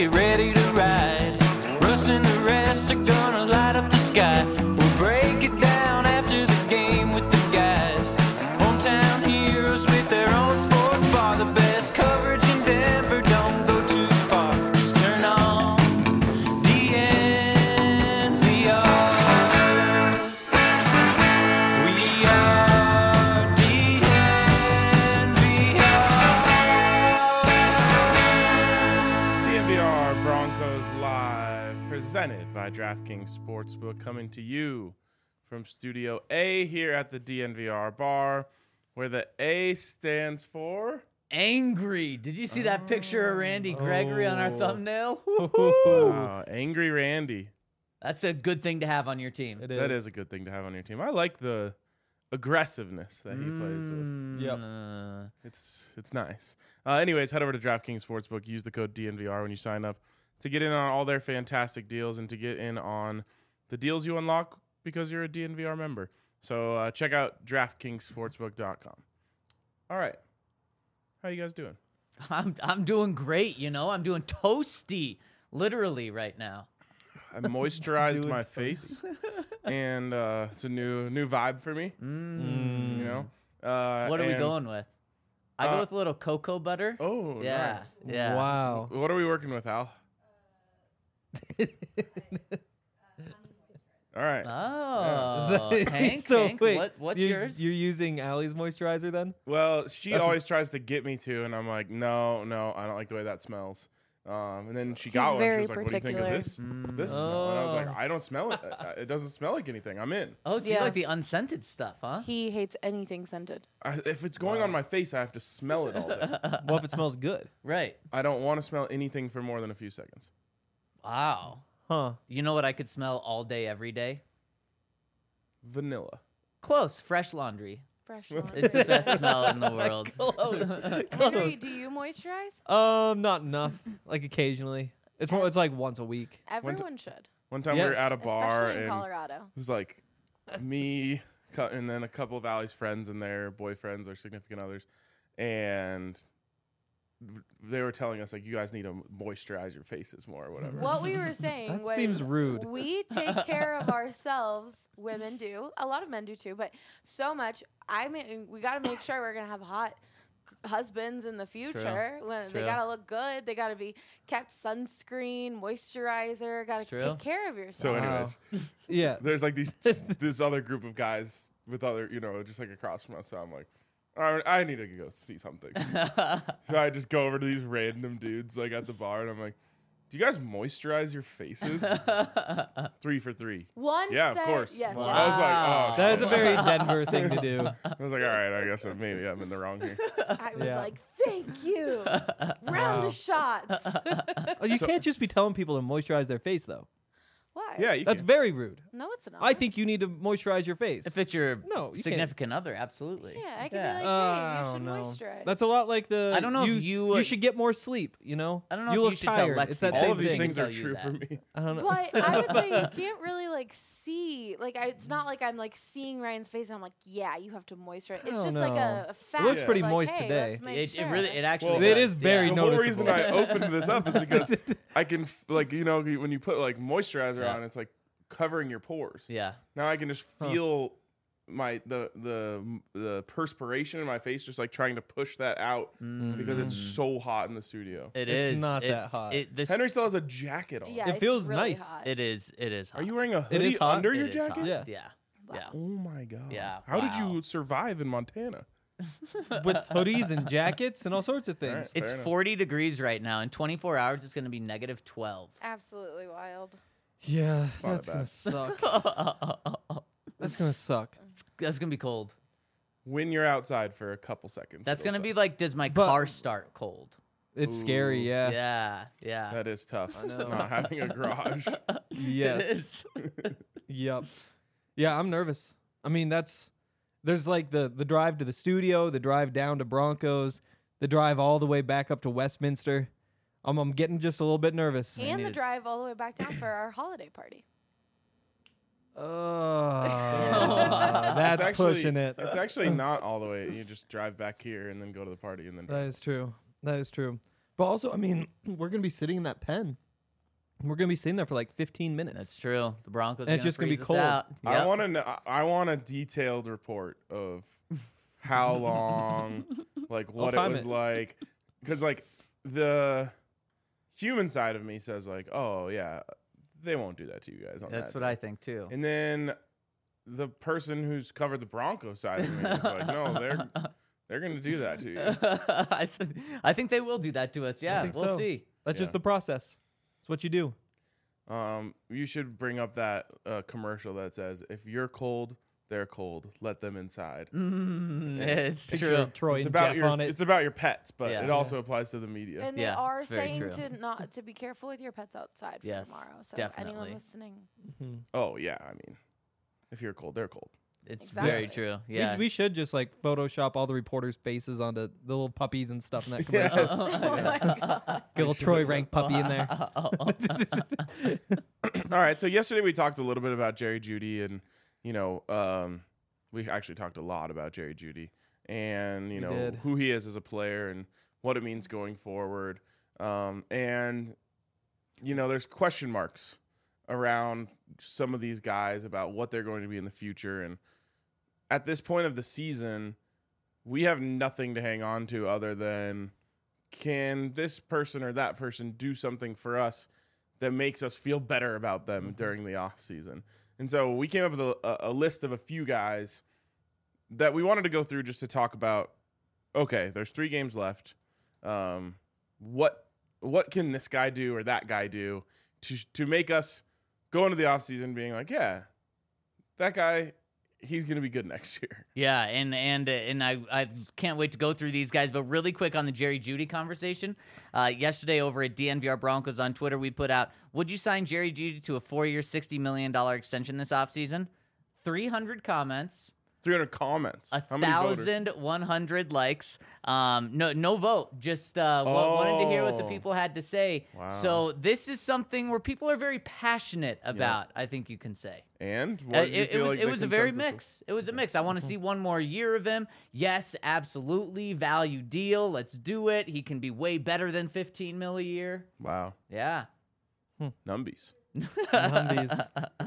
get ready to ride. Russ and the rest are gonna light up the sky. We'll break it down after the game with the guys. Hometown heroes with their own sports bar. The best coverage in Denver, don't go too far. Just turn on DNVR. We are DNVR Broncos Live, presented by DraftKings Sportsbook, coming to you from Studio A here at the DNVR bar, where the A stands for... Angry. Did you see that picture of Randy Gregory on our thumbnail? Angry Randy. That's a good thing to have on your team. It is. That is a good thing to have on your team. I like the aggressiveness that he plays with. Yep. It's nice. Anyways, head over to DraftKings Sportsbook. Use the code DNVR when you sign up to get in on all their fantastic deals and to get in on the deals you unlock because you're a DNVR member. So check out DraftKingsSportsbook.com. All right. How you guys doing? I'm doing great, you know. I'm doing toasty, literally right now. I moisturized my face, and it's a new vibe for me. You know. What are we and- going with? I go with a little cocoa butter. Oh, yeah, nice. yeah. Wow. What are we working with, Al? All right. Oh, Hank, So Hank, wait, what's you're, yours? You're using Allie's moisturizer then? Well, she That's always tries to get me to, and I'm like, no, I don't like the way that smells. And then she got one. She very was like, what do you think of this? This smell? And I was like, Oh. I don't smell it. It doesn't smell like anything. I'm in. Oh, so you Yeah. like the unscented stuff, huh? He hates anything scented. If it's going on my face, I have to smell it all day. What if it smells good? Right. I don't want to smell anything for more than a few seconds. Wow. Huh. You know what I could smell all day, every day? Vanilla. Close. Fresh laundry. Fresh one. It's the best smell in the world. Henry, do you moisturize? Not enough. Like occasionally. It's more. It's like once a week. Everyone should. One time we were Yes. at a bar, Especially in and Colorado. it was like me and then a couple of Allie's friends and their boyfriends or significant others, and they were telling us like, you guys need to moisturize your faces more or whatever. What we were saying That was seems rude. we take care of ourselves. Women do. A lot of men do too, but so much. I mean, we got to make sure we're going to have hot husbands in the future. When It's they true. got to look good. They got to be kept sunscreen, moisturizer. Got It's to true. take care of So yourself. anyways, Yeah. there's like this other group of guys with other, just like across from us. So I'm like, all right, I need to go see something. So I just go over to these random dudes like at the bar, and I'm like, do you guys moisturize your faces? 3 for 3. One Yeah, set, of course. Yes. Wow. I was like, oh, That is shit. a very Denver thing to do. I was like, all right, I guess maybe I'm in the wrong here. I was Yeah. like, thank you. Round of shots. Oh, you can't just be telling people to moisturize their face though. Why? Yeah, you That's can. very rude. No, it's not. I think you need to moisturize your face. If it's your No, you can't. significant other, absolutely. Yeah, I can Yeah. be like, hey, I you don't should know. moisturize. That's a lot like the. I don't know if you- You should get more sleep. You know. I don't know you if look you should tell tired. Lexi It's that that. same All of these thing. things are Tell you true that. for me. I don't know. But I would say you can't really like see. Like, it's not like I'm like seeing Ryan's face and I'm like, yeah, you have to moisturize. It's Oh, just like no. a fact. looks of, pretty like, moist hey, today. let's make It sure. really, it actually. Well, It does, is very yeah. The whole noticeable. reason I opened this up is because I can, like, when you put like moisturizer Yeah. on, it's like covering your pores. Yeah. Now I can just feel the perspiration in my face, just like trying to push that out because it's so hot in the studio. It It's is. not that hot. Henry still has a jacket on. Yeah, It it's feels really nice. hot. It is. It is. Hot. Are you wearing a It hoodie is hot. under It your is jacket? hot. Yeah. Yeah. Yeah. Oh my god. Yeah, How did wow. you survive in Montana? With hoodies and jackets and all sorts of things. All right. It's Fair enough. 40 degrees right now. In 24 hours, it's going to be negative 12. Absolutely wild. Yeah, not that's that gonna bad. suck. That's gonna suck. That's going to be cold. When you're outside for a couple seconds. That's it'll going to be suck. like, does my But- car start cold? It's scary. Yeah. Yeah. Yeah. That is tough. I know. Not having a garage. It Yes. is. Yep. Yeah, I'm nervous. I mean, there's like the drive to the studio, the drive down to Broncos, the drive all the way back up to Westminster. I'm getting just a little bit nervous. And the need- drive all the way back down for our holiday party. That's It's actually- pushing it. It's actually not all the way. You just drive back here and then go to the party and then That drive. is true. That is true. But also, I mean, we're gonna be sitting in that pen. We're gonna be sitting there for like 15 minutes. That's true. The Broncos And are it's just gonna be freeze us cold. out. I Yep. want to know. I want a detailed report of how long, like what it time was it. like, because like the human side of me says like, oh yeah, they won't do that to you guys. On That's that what day. I think too. And then the person who's covered the Broncos side of me is like, no, they're gonna do that to you. I think they will do that to us. Yeah, think we'll so. see. That's Yeah. just the process. It's what you do. You should bring up that commercial that says, if you're cold, they're cold. Let them inside. It's Picture true. of Troy It's and about Jeff your on it. it's about your pets, but Yeah. it also applies to the media. And they Yeah, are it's very saying true. to be careful with your pets outside for Yes, tomorrow. So definitely. anyone listening, Oh yeah, I mean, if you're cold, they're cold. It's Exactly. very true. Yeah. We should just like Photoshop all the reporters' faces onto the little puppies and stuff in that commercial. Yes. oh my god, Get a little Troy Rank puppy in there. All right, so yesterday we talked a little bit about Jerry Jeudy, and we actually talked a lot about Jerry Jeudy, and you know did. who he is as a player and what it means going forward, and you know there's question marks around some of these guys about what they're going to be in the future, and at this point of the season, we have nothing to hang on to other than can this person or that person do something for us that makes us feel better about them during the off season. And so we came up with a list of a few guys that we wanted to go through just to talk about, okay, there's 3 games left. What can this guy do or that guy do to make us go into the off season being like, yeah, that guy, he's going to be good next year. Yeah, and I can't wait to go through these guys. But really quick on the Jerry Jeudy conversation, yesterday over at DNVR Broncos on Twitter, we put out, would you sign Jerry Jeudy to a 4-year, $60 million extension this offseason? 300 comments. 300 comments. How many voters? 1,100 likes. No vote. Just wanted to hear what the people had to say. Wow. So this is something where people are very passionate about. I think you can say. And what did you feel like it the was a very consensus mix. It was a mix. I want to see one more year of him. Yes, absolutely. Value deal. Let's do it. He can be way better than 15 mil a year. Wow. Yeah. Numbies. Humvees.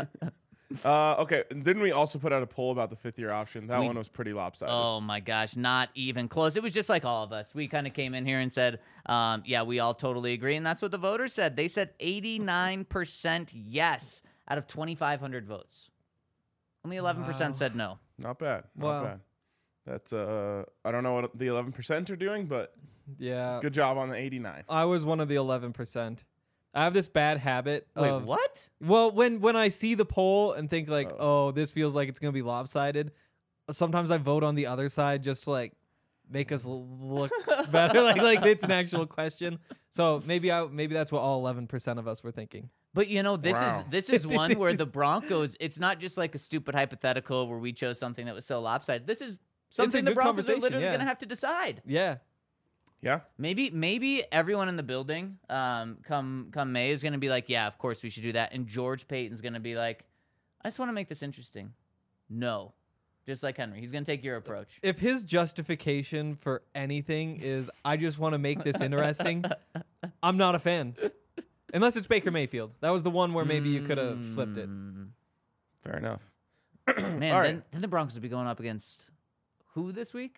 Okay. Didn't we also put out a poll about the 5th-year option? That one was pretty lopsided. Oh my gosh, not even close. It was just like all of us. We kind of came in here and said, yeah, we all totally agree. And that's what the voters said. They said 89% yes out of 2,500 votes. Only 11% said no. Not bad. Not Wow. bad. That's I don't know what the 11% are doing, but Yeah. good job on the 89. I was one of the 11%. I have this bad habit Wait, of what? Well, when I see the poll and think like, oh, this feels like it's gonna be lopsided, sometimes I vote on the other side just to like make us look better, like it's an actual question. So maybe that's what all 11% of us were thinking. But you know, this Wow. is one where the Broncos, it's not just like a stupid hypothetical where we chose something that was so lopsided. This is something the good Broncos are conversation, literally yeah. going to have to decide. Yeah. Yeah. Maybe everyone in the building come May is going to be like, yeah, of course we should do that. And George Payton's going to be like, I just want to make this interesting. No. Just like Henry. He's going to take your approach. If his justification for anything is I just want to make this interesting, I'm not a fan. Unless it's Baker Mayfield. That was the one where maybe you could have flipped it. Fair enough. Man, All right. then the Broncos will be going up against who this week?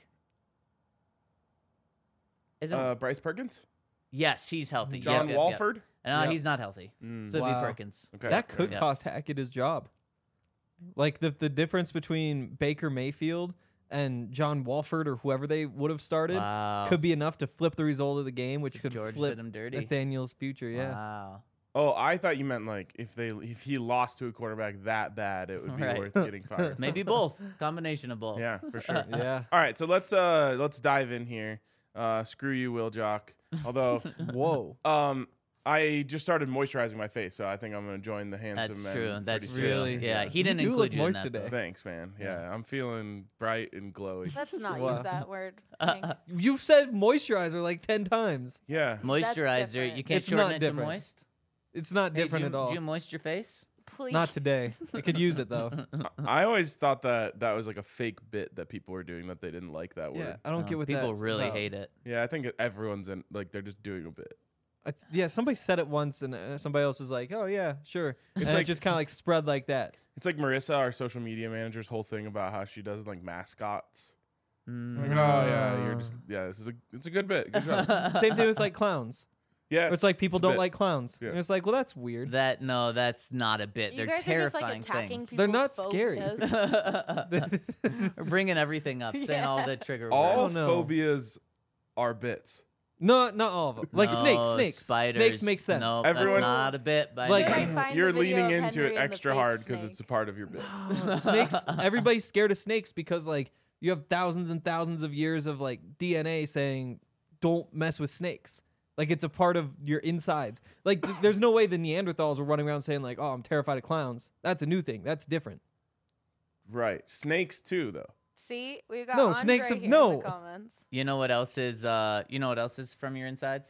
Is it? Bryce Perkins? Yes, he's healthy. John Yep. Walford? No, Yep. he's not healthy. So it'd Wow. be Perkins. Okay. That could Yeah. cost Hackett his job. Like the difference between Baker Mayfield and John Walford or whoever they would have started Wow. could be enough to flip the result of the game, which So could George flip did him dirty. Nathaniel's future. Yeah. Wow. Oh, I thought you meant like if he lost to a quarterback that bad, it would be Right. worth getting fired. Maybe both. Combination of both. Yeah, for sure. Yeah. All right, so let's dive in here. Screw you, Will Jock. Although Whoa. I just started moisturizing my face, so I think I'm gonna join the handsome That's men. true. That's pretty true. soon. Really? Yeah, he didn't You do include look you in moist that, today. though. Thanks, man. Yeah, I'm feeling bright and glowy. let's not Wow. use that word. Hank. You've said moisturizer like 10 times. Yeah. Moisturizer. different. You can't It's shorten not it different. to moist. It's not Hey, different do at you, all. Do you moist your face? Please. Not today. I could use it though. I always thought that was like a fake bit that people were doing that they didn't like that Yeah, word. I don't get what People that's really about. hate it. Yeah, I think everyone's in like they're just doing a bit. Yeah, somebody said it once, and somebody else was like, "Oh yeah, sure." And like- it just kind of like spread like that. It's like Marissa, our social media manager's whole thing about how she does like mascots. Mm. Like, oh yeah, you're just it's a good bit. Good job. Same thing with like clowns. Yeah, It's like people a don't bit. like clowns. Yeah. And it's like, well, that's weird. That's not a bit. You They're guys are just like terrifying attacking things. people's They're not scary. phobias. We're bringing everything up, saying all Yeah. the trigger All words. no. phobias are bits. No, not all of them. Like No, snakes. spiders. Snakes make sense. No, Everyone- that's not a bit. By Like- any Where I means. find You're the video leaning of into Henry it and the extra fake hard because it's a snake. part of your bit. Snakes. Everybody's scared of snakes because like you have thousands and thousands of years of like DNA saying don't mess with snakes. Like it's a part of your insides. Like there's no way the Neanderthals were running around saying like, "Oh, I'm terrified of clowns." That's a new thing. That's different. Right. Snakes too, though. See, we got No, Andre snakes here have- in no. the comments. You know what else is? You know what else is from your insides?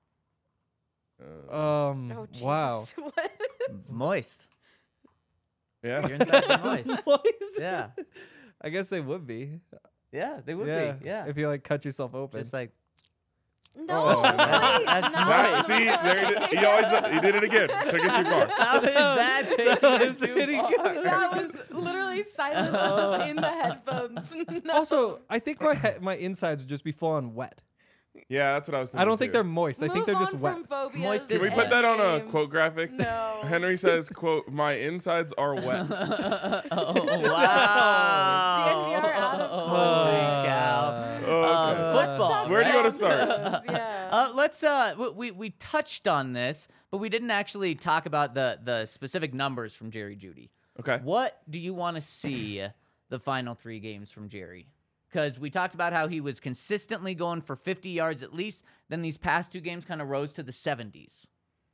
Oh, Jesus. Wow. What? Moist. Yeah. Your insides are moist. Moist? Yeah. I guess they would be. Yeah, they would yeah. be. Yeah. If you like cut yourself open. Just like No, Oh, please, that's no. right. See, there he did it again. Took it too far. how is that taking Is it too it far? That was literally silence just in the headphones. No. Also, I think my insides would just be full on wet. Yeah, that's what I was thinking. I don't think too. they're moist. I think Move they're just on wet. from phobias Moist Can we is put that on a games. quote graphic? No. Henry says, "quote My insides are wet." Oh wow! DNVR out of Holy cow! Okay. Football. Stop Where do you wanna randoms, start? Yeah. Let's we touched on this, but we didn't actually talk about the specific numbers from Jerry Jeudy. Okay. What do you want to see the final 3 games from Jerry? Because we talked about how he was consistently going for 50 yards at least. Then these past 2 games kind of rose to the 70s.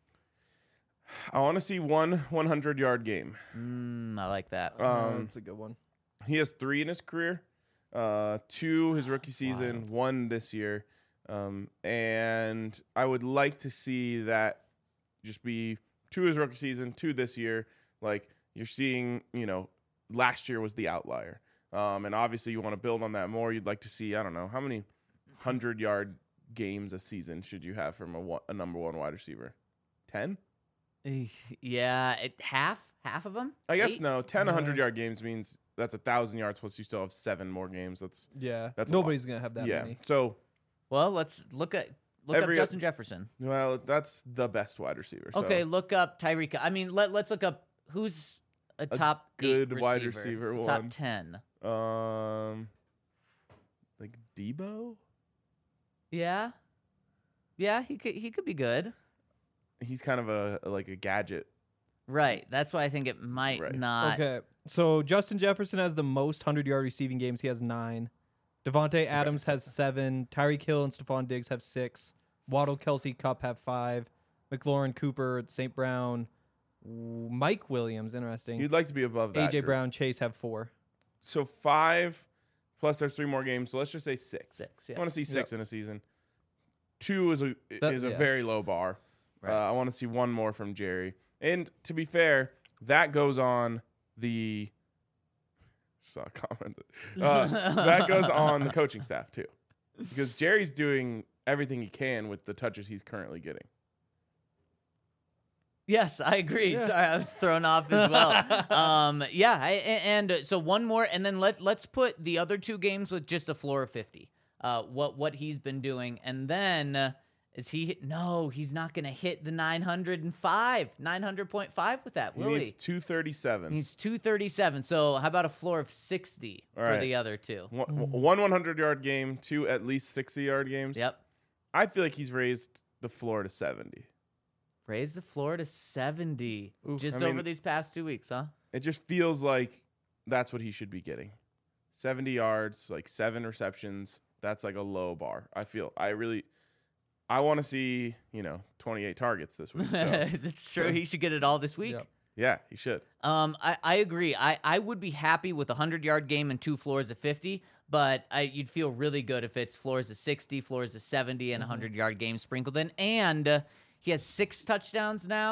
I want to see one 100-yard game. I like that. That's a good one. He has 3 in his career, 2 his rookie season, 1 this year, and I would like to see that just be 2 his rookie season, 2 this year. Like you're seeing, last year was the outlier, and obviously you want to build on that more. You'd like to see, I don't know, how many 100-yard games a season should you have from a number 1 wide receiver? 10? Yeah, half of them. I guess 8? no. 10 100-yard games means that's 1,000 yards plus you still have 7 more games. That's Yeah. That's a Nobody's going to have that yeah. many. So Well, let's look up Every- Justin Jefferson. well, that's the best wide receiver. So Okay, look up Tyreek. I mean, let's look up who's a top good 8 wide receiver, receiver top one. 10. Like Debo. Yeah, he could be good. He's kind of a gadget. Right. That's why I think it might Right. not. Okay. So Justin Jefferson has the most 100-yard receiving games. He has 9. Devontae Adams has 7. Tyreek Hill and Stephon Diggs have 6. Waddle, Kelsey, Cup have 5. McLaurin, Cooper, St. Brown, Mike Williams, interesting. You'd like to be above that. AJ group. Brown, Chase have 4. So 5 plus there's 3 more games. So let's just say 6. 6, I yeah. want to see 6 in a season. 2 is a yeah. very low bar. Right. I want to see 1 more from Jerry. And to be fair, that goes on the. Saw a comment. That goes on the coaching staff too, because Jerry's doing everything he can with the touches he's currently getting. Yes, I agree. Yeah. Sorry, I was thrown off as well. And so one more, and then let's put the other 2 games with just a floor of 50. What he's been doing, and then is he? No, he's not going to hit the 900.5 with that, He will needs he? 237. He's 237. So how about a floor of 60 All for right. the other 2? One 100-yard game, 2 at least 60-yard games. Yep. I feel like he's raised the floor to 70. Raise the floor to 70 Oof. just I mean- over these past 2 weeks, huh? It just feels like that's what he should be getting. 70 yards, like 7 receptions. That's like a low bar. I want to see, 28 targets this week. So That's true. He should get it all this week. Yep. yeah, he should. I agree. I would be happy with a 100-yard game and 2 floors of 50, but you'd feel really good if it's floors of 60, floors of 70, and a 100-yard game sprinkled in. And he has 6 touchdowns now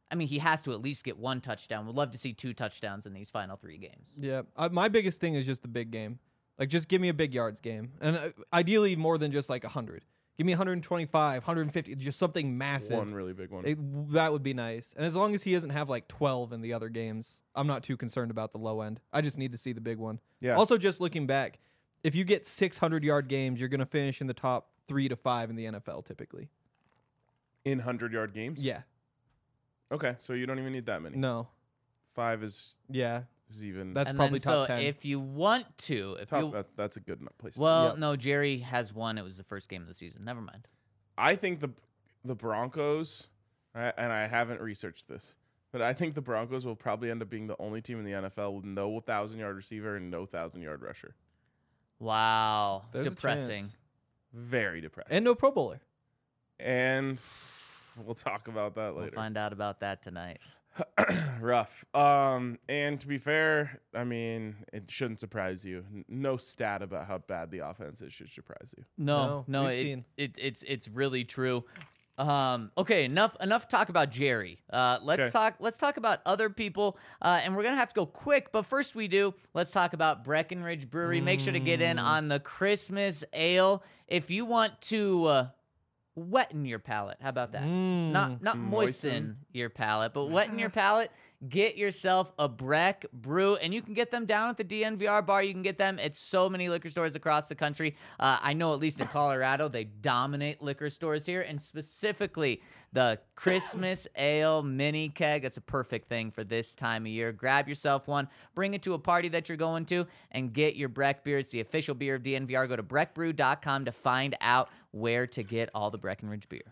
I mean, he has to at least get 1 touchdown. We'd love to see 2 touchdowns in these final 3 games. Yeah, my biggest thing is just the big game. Like, just give me a big yards game, and ideally more than just like 100. Give me 125, 150, just something massive. One really big one. That would be nice. And as long as he doesn't have like 12 in the other games, I'm not too concerned about the low end. I just need to see the big one. Yeah. Also, just looking back, if you get 600-yard games, you're going to finish in the top 3 to 5 in the NFL typically. In 100-yard games? Yeah. Okay, so you don't even need that many. No. 5 is Yeah. even. That's And probably then, top so 10. if you want to, that's a good place. to well, Yep. no, Jerry has 1. It was the first game of the season. Never mind. I think the Broncos, and I haven't researched this, but I think the Broncos will probably end up being the only team in the NFL with no 1,000-yard receiver and no 1,000-yard rusher. Wow, There's a depressing. chance. Very depressing. And no Pro Bowler. And we'll talk about that We'll later. find out about that tonight. Rough. And to be fair, I mean, it shouldn't surprise you. No stat about how bad the offense is should surprise you. No, we've seen. it's really true. Okay, enough talk about Jerry. Let's talk about other people. And we're gonna have to go quick, but first let's talk about Breckenridge Brewery. Make sure to get in on the Christmas ale if you want to wetten your palate. How about that? Not moisten your palate, but wetten your palate. Get yourself a Breck Brew, and you can get them down at the DNVR bar. You can get them at so many liquor stores across the country. I know at least in Colorado, they dominate liquor stores here, and specifically the Christmas Ale Mini Keg. That's a perfect thing for this time of year. Grab yourself one, bring it to a party that you're going to, and get your Breck beer. It's the official beer of DNVR. Go to breckbrew.com to find out where to get all the Breckenridge beer.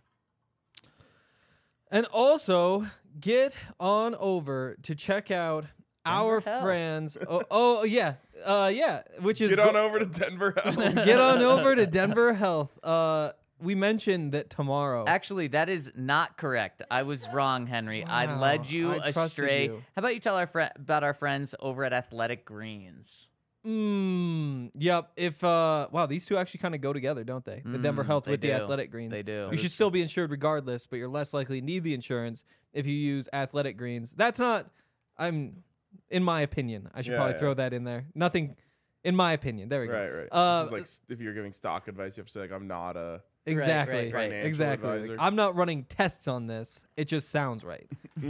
And also, get on over to check out our Health. friends. Yeah, which is Get on over to Denver Health. get on over to Denver Health. We mentioned that tomorrow. Actually, that is not correct. I was wrong, Henry. I Wow, led you I trusted astray. you. How about you tell about our friends over at Athletic Greens? Yep. If wow, these two actually kind of go together, don't they? The Denver Health they with the do. Athletic Greens. They do. You should still be insured regardless, but you're less likely to need the insurance if you use Athletic Greens. That's not. In my opinion, I should Yeah, probably yeah. throw that in there. Nothing. In my opinion, there we go. Right. This is like if you're giving stock advice, you have to say like, I'm not a Exactly. right. financial Exactly. Like, advisor. I'm not running tests on this. It just sounds right.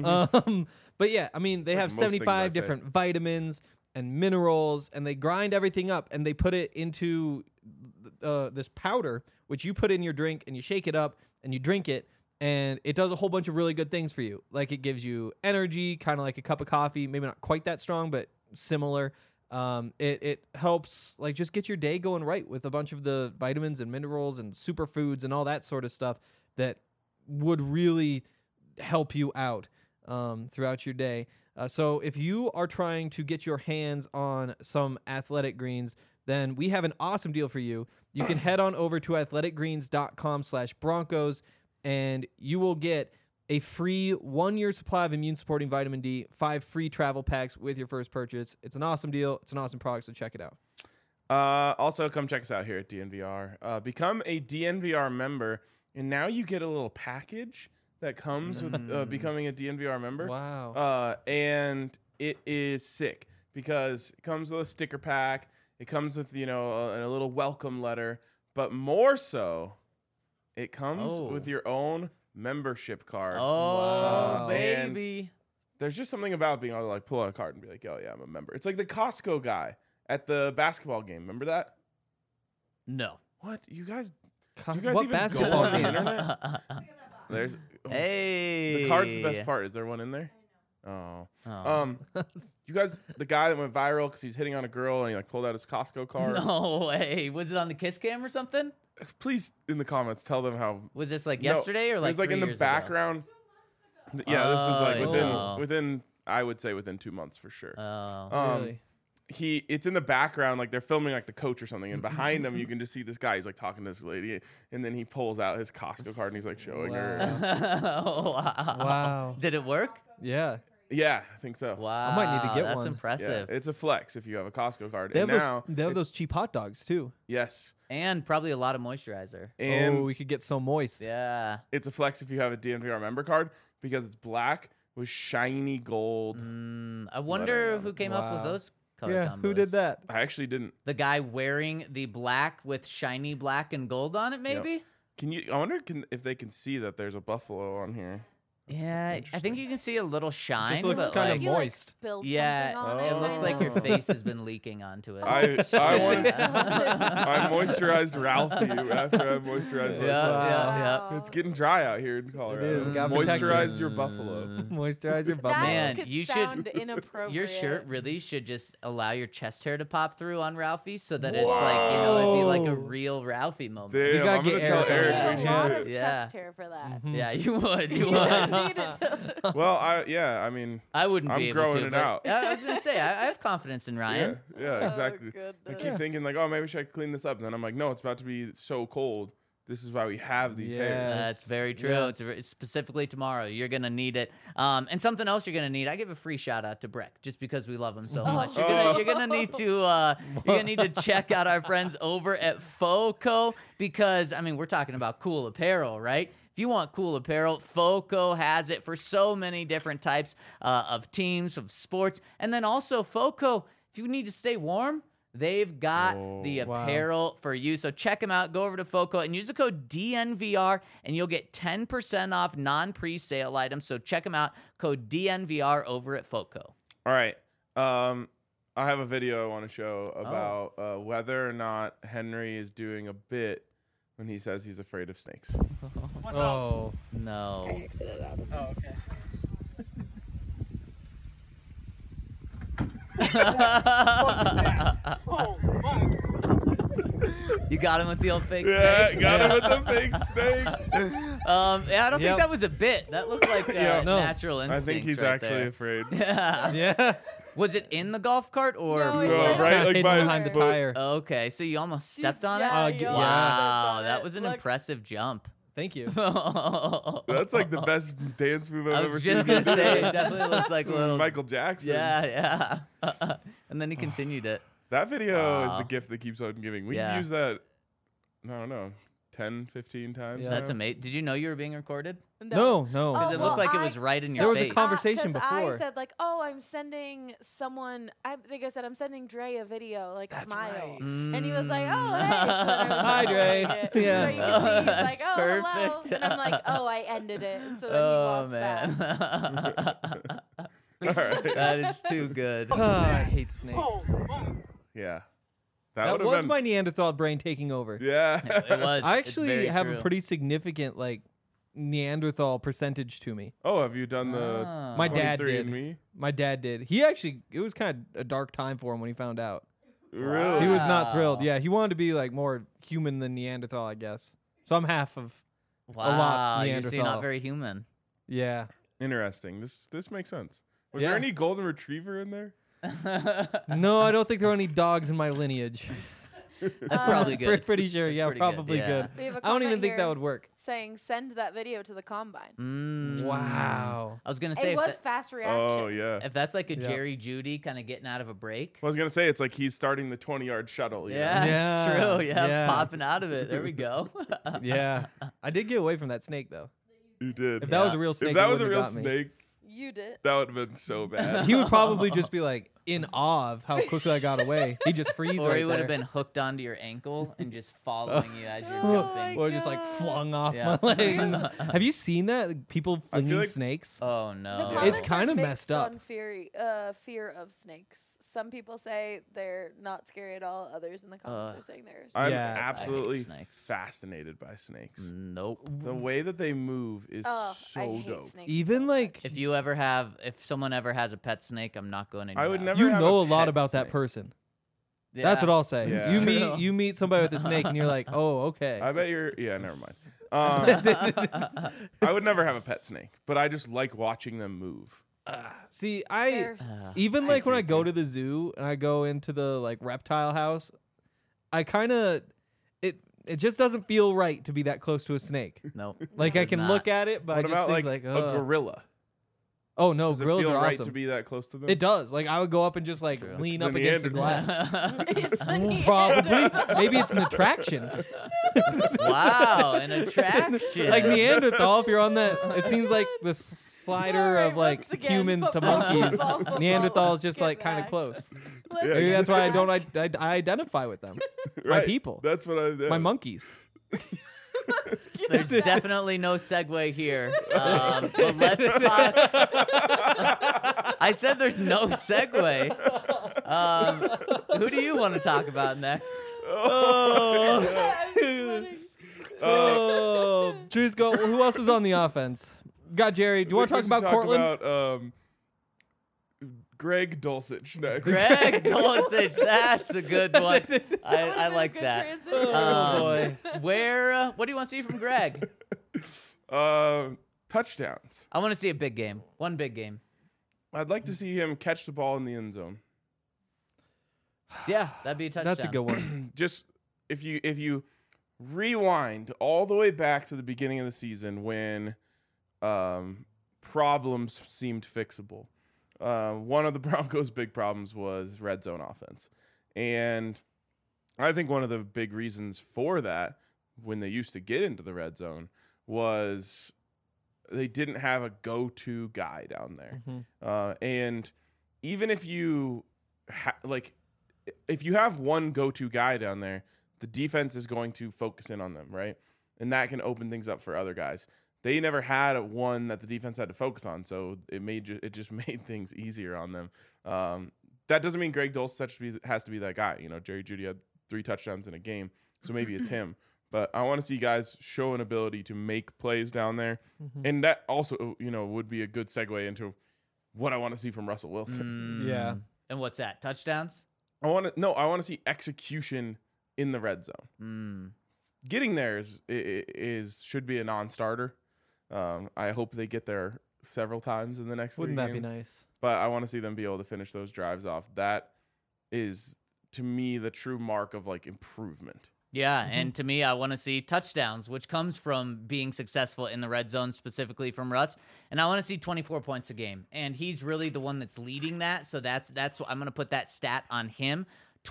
But yeah, I mean, they It's like have most things I 75 say. different vitamins and minerals, and they grind everything up and they put it into this powder, which you put in your drink and you shake it up and you drink it, and it does a whole bunch of really good things for you. Like it gives you energy, kind of like a cup of coffee, maybe not quite that strong, but similar. It helps like just get your day going right with a bunch of the vitamins and minerals and superfoods and all that sort of stuff that would really help you out throughout your day. So if you are trying to get your hands on some Athletic Greens, then we have an awesome deal for you. You can head on over to athleticgreens.com/Broncos and you will get a free 1-year supply of immune-supporting vitamin D, 5 free travel packs with your first purchase. It's an awesome deal. It's an awesome product, so check it out. Also, come check us out here at DNVR. Become a DNVR member, and now you get a little package that comes with becoming a DNVR member. Wow. And it is sick because it comes with a sticker pack. It comes with, a little welcome letter. But more so, it comes with your own membership card. Oh, Wow. baby. There's just something about being able to like pull out a card and be like, oh yeah, I'm a member. It's like the Costco guy at the basketball game. Remember that? No. What? You guys God, you guys what even go basketball on the game? internet? There's Hey. the card's the best part. Is there one in there? Oh. Oh. You guys, the guy that went viral because he's hitting on a girl and he like pulled out his Costco card. No way. Was it on the Kiss Cam or something? Please, in the comments, tell them how. Was this like No, yesterday or it like was like 3 in the years ago? background. Yeah, this was like Oh. within I would say within 2 months for sure. Oh. Really? It's in the background, like they're filming like the coach or something, and behind him you can just see this guy. He's like talking to this lady, and then he pulls out his Costco card and he's like showing her. Oh, wow. Wow. Did it work? Yeah. Yeah, I think so. Wow. might need to get That's one. Yeah, impressive. it's a flex if you have a Costco card. They And have, now, they have those cheap hot dogs, too. yes, And probably a lot of moisturizer. and we could get so moist. Yeah. it's a flex if you have a DNVR member card because it's black with shiny gold. I wonder on who it. came up with Wow. those color Yeah, combos. who did that? I actually didn't. The guy wearing the black with shiny black and gold on it, maybe? I wonder if they can see that there's a buffalo on here. Yeah, I think you can see a little shine. looks but kinda like, you, moist. spilled yeah, something on it looks like your Oh. face has been leaking onto it. I want. Yeah. I moisturized Ralphie after I moisturized Yeah, myself. yeah. It's getting dry out here in Colorado. is, gotta protect it. Moisturize your buffalo. Moisturize your That buffalo. Man, could you should- sound inappropriate. Your shirt really should just allow your chest hair to pop through on Ralphie so that it's like, it'd be like a Whoa. real Ralphie moment. Damn, gotta I'm gonna get tell Eric on Eric. that. we a should lot do of it. Yeah. chest hair for that. Yeah, you would. You You would. need it to- Well, I mean, I wouldn't I'm be able growing to. it but- out. Yeah, I was gonna say I have confidence in Ryan. yeah, exactly. I goodness. keep thinking like, oh, maybe should I clean this up? And then I'm like, no, it's about to be so cold. This is why we have these hairs. Yes. That's very true. Yes. It's specifically tomorrow. You're gonna need it. And something else you're gonna need. I give a free shout out to Breck just because we love him so much. You're gonna need to check out our friends over at FOCO because I mean we're talking about cool apparel, right? If you want cool apparel, FOCO has it for so many different types of teams, of sports, and then also FOCO. If you need to stay warm, they've got the Wow. apparel for you. So check them out. Go over to FOCO and use the code DNVR, and you'll get 10% off non-pre-sale items. So check them out. Code DNVR over at FOCO. All right. I have a video I want to show about whether or not Henry is doing a bit when he says he's afraid of snakes. Oh, No. Exited out of Oh, okay. Oh, fuck. You got him with the old fake Yeah, snake? got him with the fake snake. Yeah, I don't think Yep. that was a bit. That looked like Yeah, no. natural I instincts. think he's right actually there. afraid. Yeah. yeah. Was it in the golf cart or? No, it's No, right right, Kinda like hidden by his behind the foot. tire. Okay, so you almost stepped on Yeah, it. you almost Wow, stepped on that it. was an Look. impressive jump. Thank you. That's like the best dance move I've I ever was seen. just gonna say, it definitely looks like a little. Michael Jackson. Yeah. And then he continued it. That video is Wow. the gift that keeps on giving. We Yeah. use that, I don't know, 10, 15 times. Yeah. That's now. amazing. Did you know you were being recorded? No. Because it well, looked like it I- was right in There your was a face. conversation 'cause before. I said like, oh, I'm sending someone. I think I said I'm sending Dre a video, like smile, and he was like, oh, hey. So then I was Hi, Dre. recording it. Yeah. So you can see he's That's like, oh, hello, perfect. and I'm like, oh, I ended it. And so then Oh he walked back. man. All right. That is too good. Oh, I hate snakes. Oh, fuck. Yeah. That would've was been, my Neanderthal brain taking over. Yeah. It was. I It's actually very have true. a pretty significant like Neanderthal percentage to me. Oh, have you done the Ah. My dad 23 did. and Me? My dad did. He actually, it was kind of a dark time for him when he found out. Really? He was not thrilled. Wow. Yeah, he wanted to be like more human than Neanderthal, I guess. So I'm half of. Wow, lot you're so Neanderthal. not very human. Yeah. Interesting. This makes sense. Was Yeah. there any golden retriever in there? No, I don't think there are any dogs in my lineage. That's probably good. Pretty sure. That's Yeah, pretty good, probably yeah. good. We have a I don't even comment think that here would work. saying send that video to the combine. Wow. I was gonna say It if, was that- fast reaction. Oh, yeah. if that's like a Yeah. Jerry Judy kind of getting out of a break. I was going to say, it's like he's starting the 20-yard shuttle. you know? Yeah, Yeah, it's true. Yeah, yeah. popping out of it. There we go. Yeah. I did get away from that snake though. You did. If that was a Yeah. real snake, If that it was a wouldn't real have got me. snake, You did. that would have been so bad. He would probably just be like in awe of how quickly I got away. He'd just freeze Or right he would have there. been hooked onto your ankle and just following you as you're Oh jumping. my Or just like God. flung off Yeah. my leg. Have you seen that? Like, people I feel flinging like- snakes? Oh The no. comments It's are kinda mixed messed up. On fear of snakes. Some people say they're not scary at all. Others in the comments are saying they're. I'm Yeah. absolutely snakes. fascinated by snakes. Nope. The way that they move is Oh, I so hate dope. snakes. Even so like much. If someone ever has a pet snake, I'm not going in. I your would house. never you have know a a lot pet about that snake. person. Yeah. That's what I'll say. Yeah. You True. meet somebody with a snake and you're like, oh, okay. I bet you're. Yeah, never mind. I would never have a pet snake, but I just like watching them move. See, They're even too like when I go creepy. to the zoo and I go into the like reptile house, I kind of it just doesn't feel right to be that close to a snake. Nope. Like I Does can not. look at it, but What I just about think like like a gorilla? Oh no, Does it grills feel are right awesome. to be that close to them? It does. Like I would go up and just like True. lean It's up the against the Neanderthal. glass. It's the Probably. Maybe it's an attraction. Wow, an attraction. Like Neanderthal, if you're on that, it seems like the slider Alright, of like once again, humans to football, monkeys. football, Neanderthal is football. just Get like kind of back. close. Let's Yeah, Maybe get that's why I back. don't I identify with them. My Right. people. That's what I. My monkeys. There's definitely no segue here. But let's talk. I said there's no segue. Who do you want to talk about next? Oh, Drew's go. Who else is on the offense? Got Jerry. Do you want to talk about Cortland? About, Greg Dulcich next. Greg Dulcich. That's a good one. I That like would've been a that. good transition. Oh, boy. What do you want to see from Greg? Touchdowns. I want to see a big game. One big game. I'd like to see him catch the ball in the end zone. Yeah, that'd be a touchdown. That's a good one. Just if you rewind all the way back to the beginning of the season when problems seemed fixable. One of the Broncos' big problems was red zone offense. And I think one of the big reasons for that, when they used to get into the red zone, was they didn't have a go-to guy down there. And even if you if you have one go-to guy down there, the defense is going to focus in on them, right? And that can open things up for other guys. They never had one that the defense had to focus on, so it just made things easier on them. That doesn't mean Greg Dulcich has to be that guy. You know, Jerry Jeudy had 3 touchdowns in a game, so maybe it's him. But I want to see guys show an ability to make plays down there, and that also, would be a good segue into what I want to see from Russell Wilson. Yeah. And what's that? Touchdowns? I want to see execution in the red zone. Getting there should be a non-starter. I hope they get there several times in the next 3 Wouldn't that be games. nice? But I want to see them be able to finish those drives off. That is, to me, the true mark of like improvement. Yeah, and to me, I want to see touchdowns, which comes from being successful in the red zone, specifically from Russ. And I want to see 24 points a game, and he's really the one that's leading that. So that's what I'm going to put that stat on him.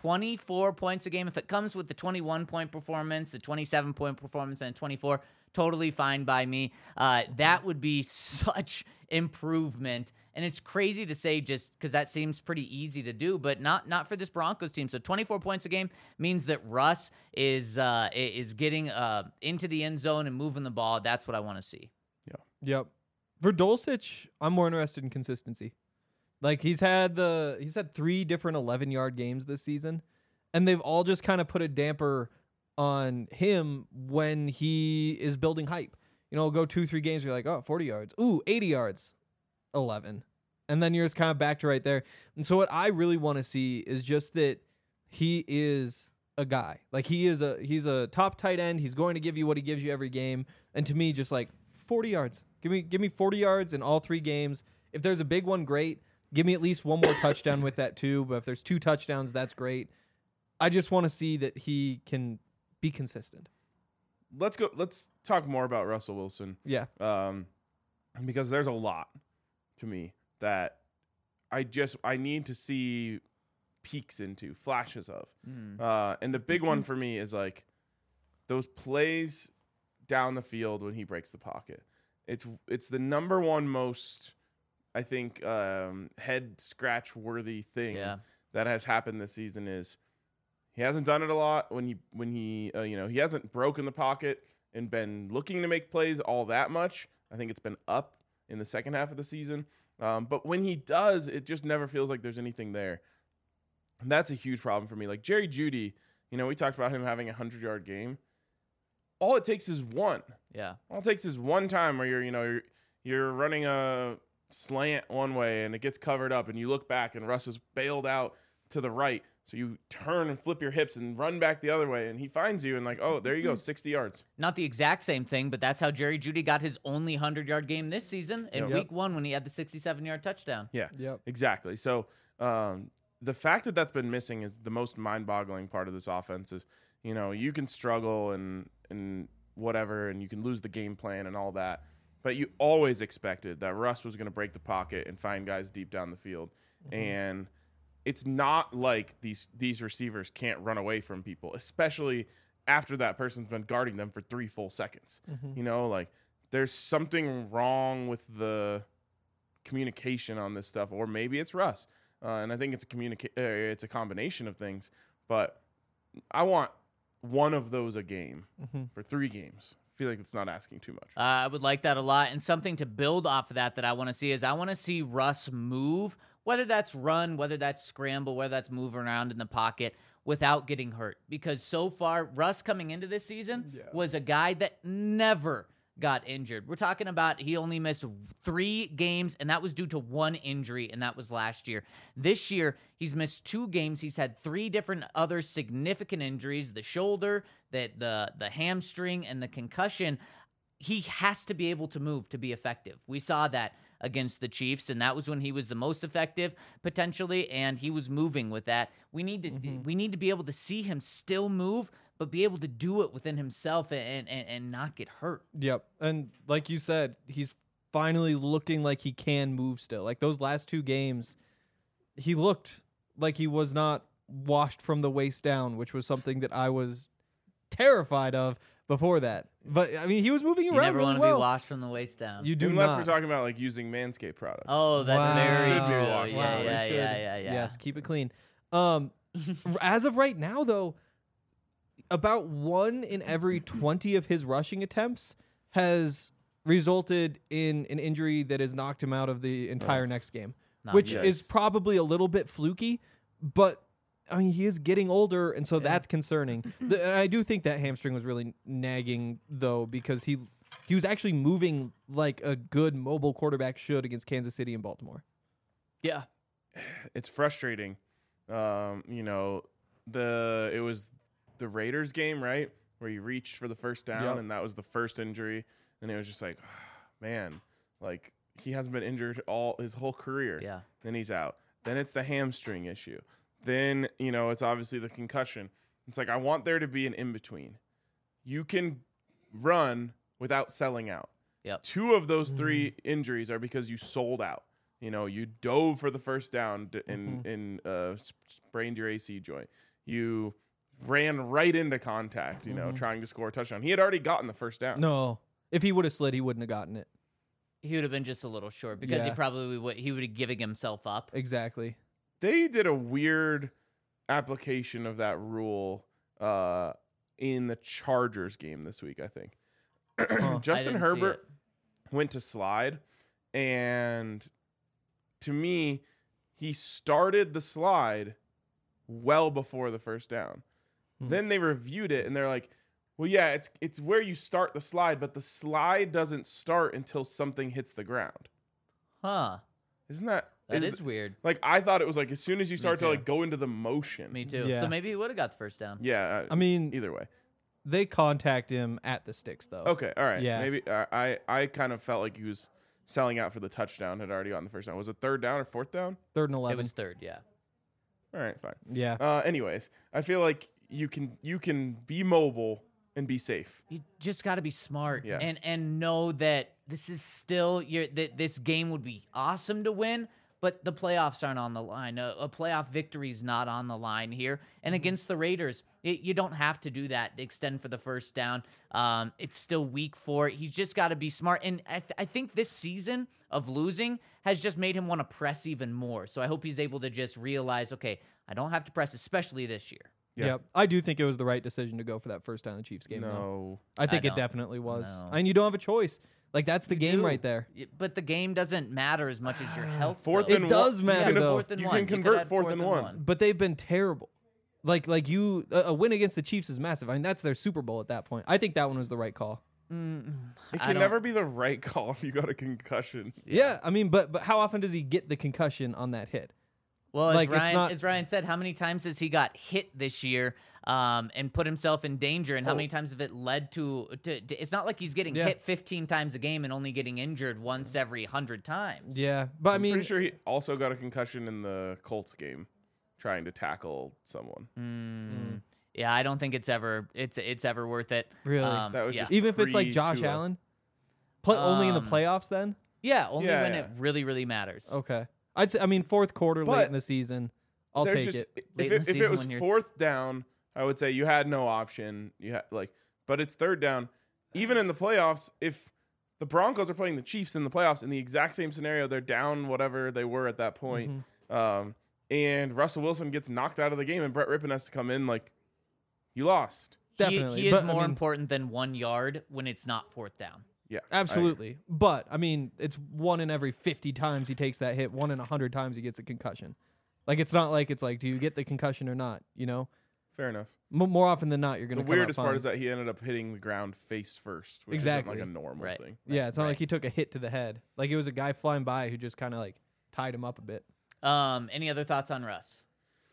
24 points a game. If it comes with the 21-point performance, the 27-point performance, and 24, totally fine by me. That would be such improvement. And it's crazy to say just because that seems pretty easy to do, but not for this Broncos team. So 24 points a game means that Russ is getting into the end zone and moving the ball. That's what I want to see. Yep. For Dulcich, I'm more interested in consistency. Like he's had 3 different 11-yard games this season, and they've all just kind of put a damper on him when he is building hype. Go 2-3 games, you're like, oh, 40 yards. Ooh, 80 yards. 11. And then you're just kind of back to right there. And so what I really want to see is just that he is a guy. Like he's a top tight end. He's going to give you what he gives you every game. And to me, just like 40 yards. Give me 40 yards in all 3 games. If there's a big one, great. Give me at least one more touchdown with that too. But if there's 2 touchdowns, that's great. I just want to see that he can be consistent. Let's talk more about Russell Wilson. Yeah. Because there's a lot to me that I need to see peeks into, flashes of. And the big one for me is like those plays down the field when he breaks the pocket. It's the number one most, I think, head scratch worthy thing that has happened this season is he hasn't done it a lot when he he hasn't broken the pocket and been looking to make plays all that much. I think it's been up in the second half of the season. But when he does, it just never feels like there's anything there. And that's a huge problem for me. Like Jerry Jeudy, we talked about him having a 100-yard game. All it takes is one. Yeah. All it takes is one time where you're running a slant one way and it gets covered up and you look back and Russ is bailed out to the right. So you turn and flip your hips and run back the other way, and he finds you and like, oh, there you go, 60 yards. Not the exact same thing, but that's how Jerry Jeudy got his only 100-yard game this season in Yep. week 1 when he had the 67-yard touchdown. Yeah, Yep. exactly. So the fact that that's been missing is the most mind-boggling part of this offense is, you can struggle and whatever, and you can lose the game plan and all that. but you always expected that Russ was going to break the pocket and find guys deep down the field. And it's not like these receivers can't run away from people, especially after that person's been guarding them for 3 full seconds. You know, like there's something wrong with the communication on this stuff, or maybe it's Russ. And I think it's it's a combination of things, but I want one of those a game for 3 games. I feel like it's not asking too much. I would like that a lot. And something to build off of that I want to see is I want to see Russ move, whether that's run, whether that's scramble, whether that's move around in the pocket without getting hurt. Because so far, Russ coming into this season was a guy that never got injured. We're talking about he only missed 3 games, and that was due to 1 injury, and that was last year. This year, he's missed 2 games. He's had 3 different other significant injuries, the shoulder, the hamstring, and the concussion. He has to be able to move to be effective. We saw that against the Chiefs, and that was when he was the most effective potentially, and he was moving with that. We need to be able to see him still move, but be able to do it within himself and not get hurt. Yep. And like you said, he's finally looking like he can move still. Like those last 2 games, he looked like he was not washed from the waist down, which was something that I was terrified of before that. But I mean, he was moving You around never really want to well. be washed from the waist down. You do Unless not. we're talking about like using Manscaped products. Oh, that's Wow. very Should be true. washed. Yeah, Wow, they yeah, should. yeah. Yes, keep it clean. As of right now, though, about 1 in every 20 of his rushing attempts has resulted in an injury that has knocked him out of the entire next game, Not which good. is probably a little bit fluky, but I mean, he is getting older, and so that's concerning. And I do think that hamstring was really nagging, though, because he was actually moving like a good mobile quarterback should against Kansas City and Baltimore. Yeah. It's frustrating. You know, it was the Raiders game, right, where he reached for the first down, Yep. and that was the first injury, and it was just like, man, like he hasn't been injured his whole career. Yeah. Then he's out. Then it's the hamstring issue. Then, you know, it's obviously the concussion. It's like I want there to be an in between. You can run without selling out. Yep. 2 of those 3 injuries are because you sold out. You know, you dove for the first down and sprained your AC joint. You ran right into contact, you know, trying to score a touchdown. He had already gotten the first down. No. If he would have slid, he wouldn't have gotten it. He would have been just a little short because he Yeah. probably would have given himself up. Exactly. They did a weird application of that rule in the Chargers game this week, I think. Huh. Justin I didn't see Herbert it. went to slide, and to me, he started the slide well before the first down. Then they reviewed it, and they're like, well, yeah, it's where you start the slide, but the slide doesn't start until something hits the ground. Huh. Isn't that... That is weird. Like, I thought it was like as soon as you start to too. like go into the motion. Me too. Yeah. So maybe he would have got the first down. Yeah. I mean, either way. they contact him at the sticks, though. Okay. All right. Yeah. Maybe I kind of felt like he was selling out for the touchdown. Had already gotten the first down. Was it 3rd down or 4th down? 3rd and 11. It was 3rd, yeah. All right. Fine. Yeah. Anyways, I feel like you can be mobile and be safe. You just got to be smart Yeah. and know that this is still that this game would be awesome to win, but the playoffs aren't on the line. A playoff victory is not on the line here. And against the Raiders, you don't have to do that to extend for the first down. It's still week 4. He's just got to be smart. And I think this season of losing has just made him want to press even more. So I hope he's able to just realize, okay, I don't have to press, especially this year. Yeah. Yep. I do think it was the right decision to go for that first down in the Chiefs game. though. No. I think I it don't. definitely was. No. And you don't have a choice. Like, that's the game do. right there. But the game doesn't matter as much as your health. Fourth though. and It does one. matter, Yeah, though. fourth and You one. can could convert add fourth and one. But they've been terrible. Like a win against the Chiefs is massive. I mean, that's their Super Bowl at that point. I think that one was the right call. It I can don't- never be the right call if you got a concussion. Yeah, I mean, but how often does he get the concussion on that hit? Well, as, Like, it's Ryan, not- as Ryan said, how many times has he got hit this year and put himself in danger, and how many times have it led to it's not like he's getting Yeah. hit 15 times a game and only getting injured once every 100 times. Yeah, but I I'm mean, pretty sure he also got a concussion in the Colts game trying to tackle someone. Yeah, I don't think it's ever worth it. Really? Um, That was yeah. just even if it's like pre- Josh Tua. Allen, Only in the Um, playoffs then? Yeah, only Yeah, when yeah. it really, really matters. Okay. I'd say, I mean, fourth quarter, late But in the season, I'll There's take just, it. Late If in it, the if it season was when you're- fourth down, I would say you had no option. You had but it's third down. Even in the playoffs, if the Broncos are playing the Chiefs in the playoffs in the exact same scenario, they're down whatever they were at that point, and Russell Wilson gets knocked out of the game, and Brett Rippon has to come in, like, you lost. Definitely. He is But, I more mean, important than 1 yard when it's not fourth down. Yeah, Absolutely. But, I mean, it's 1 in every 50 times he takes that hit, 1 in 100 times he gets a concussion. Like, it's not like it's like, do you get the concussion or not? You know? Fair enough. More often than not, you're going The to come out weirdest part fine. is that he ended up hitting the ground face first, which Exactly. isn't like a normal Right. thing. Yeah, it's not Right. like he took a hit to the head. Like, it was a guy flying by who just kind of, like, tied him up a bit. Any other thoughts on Russ?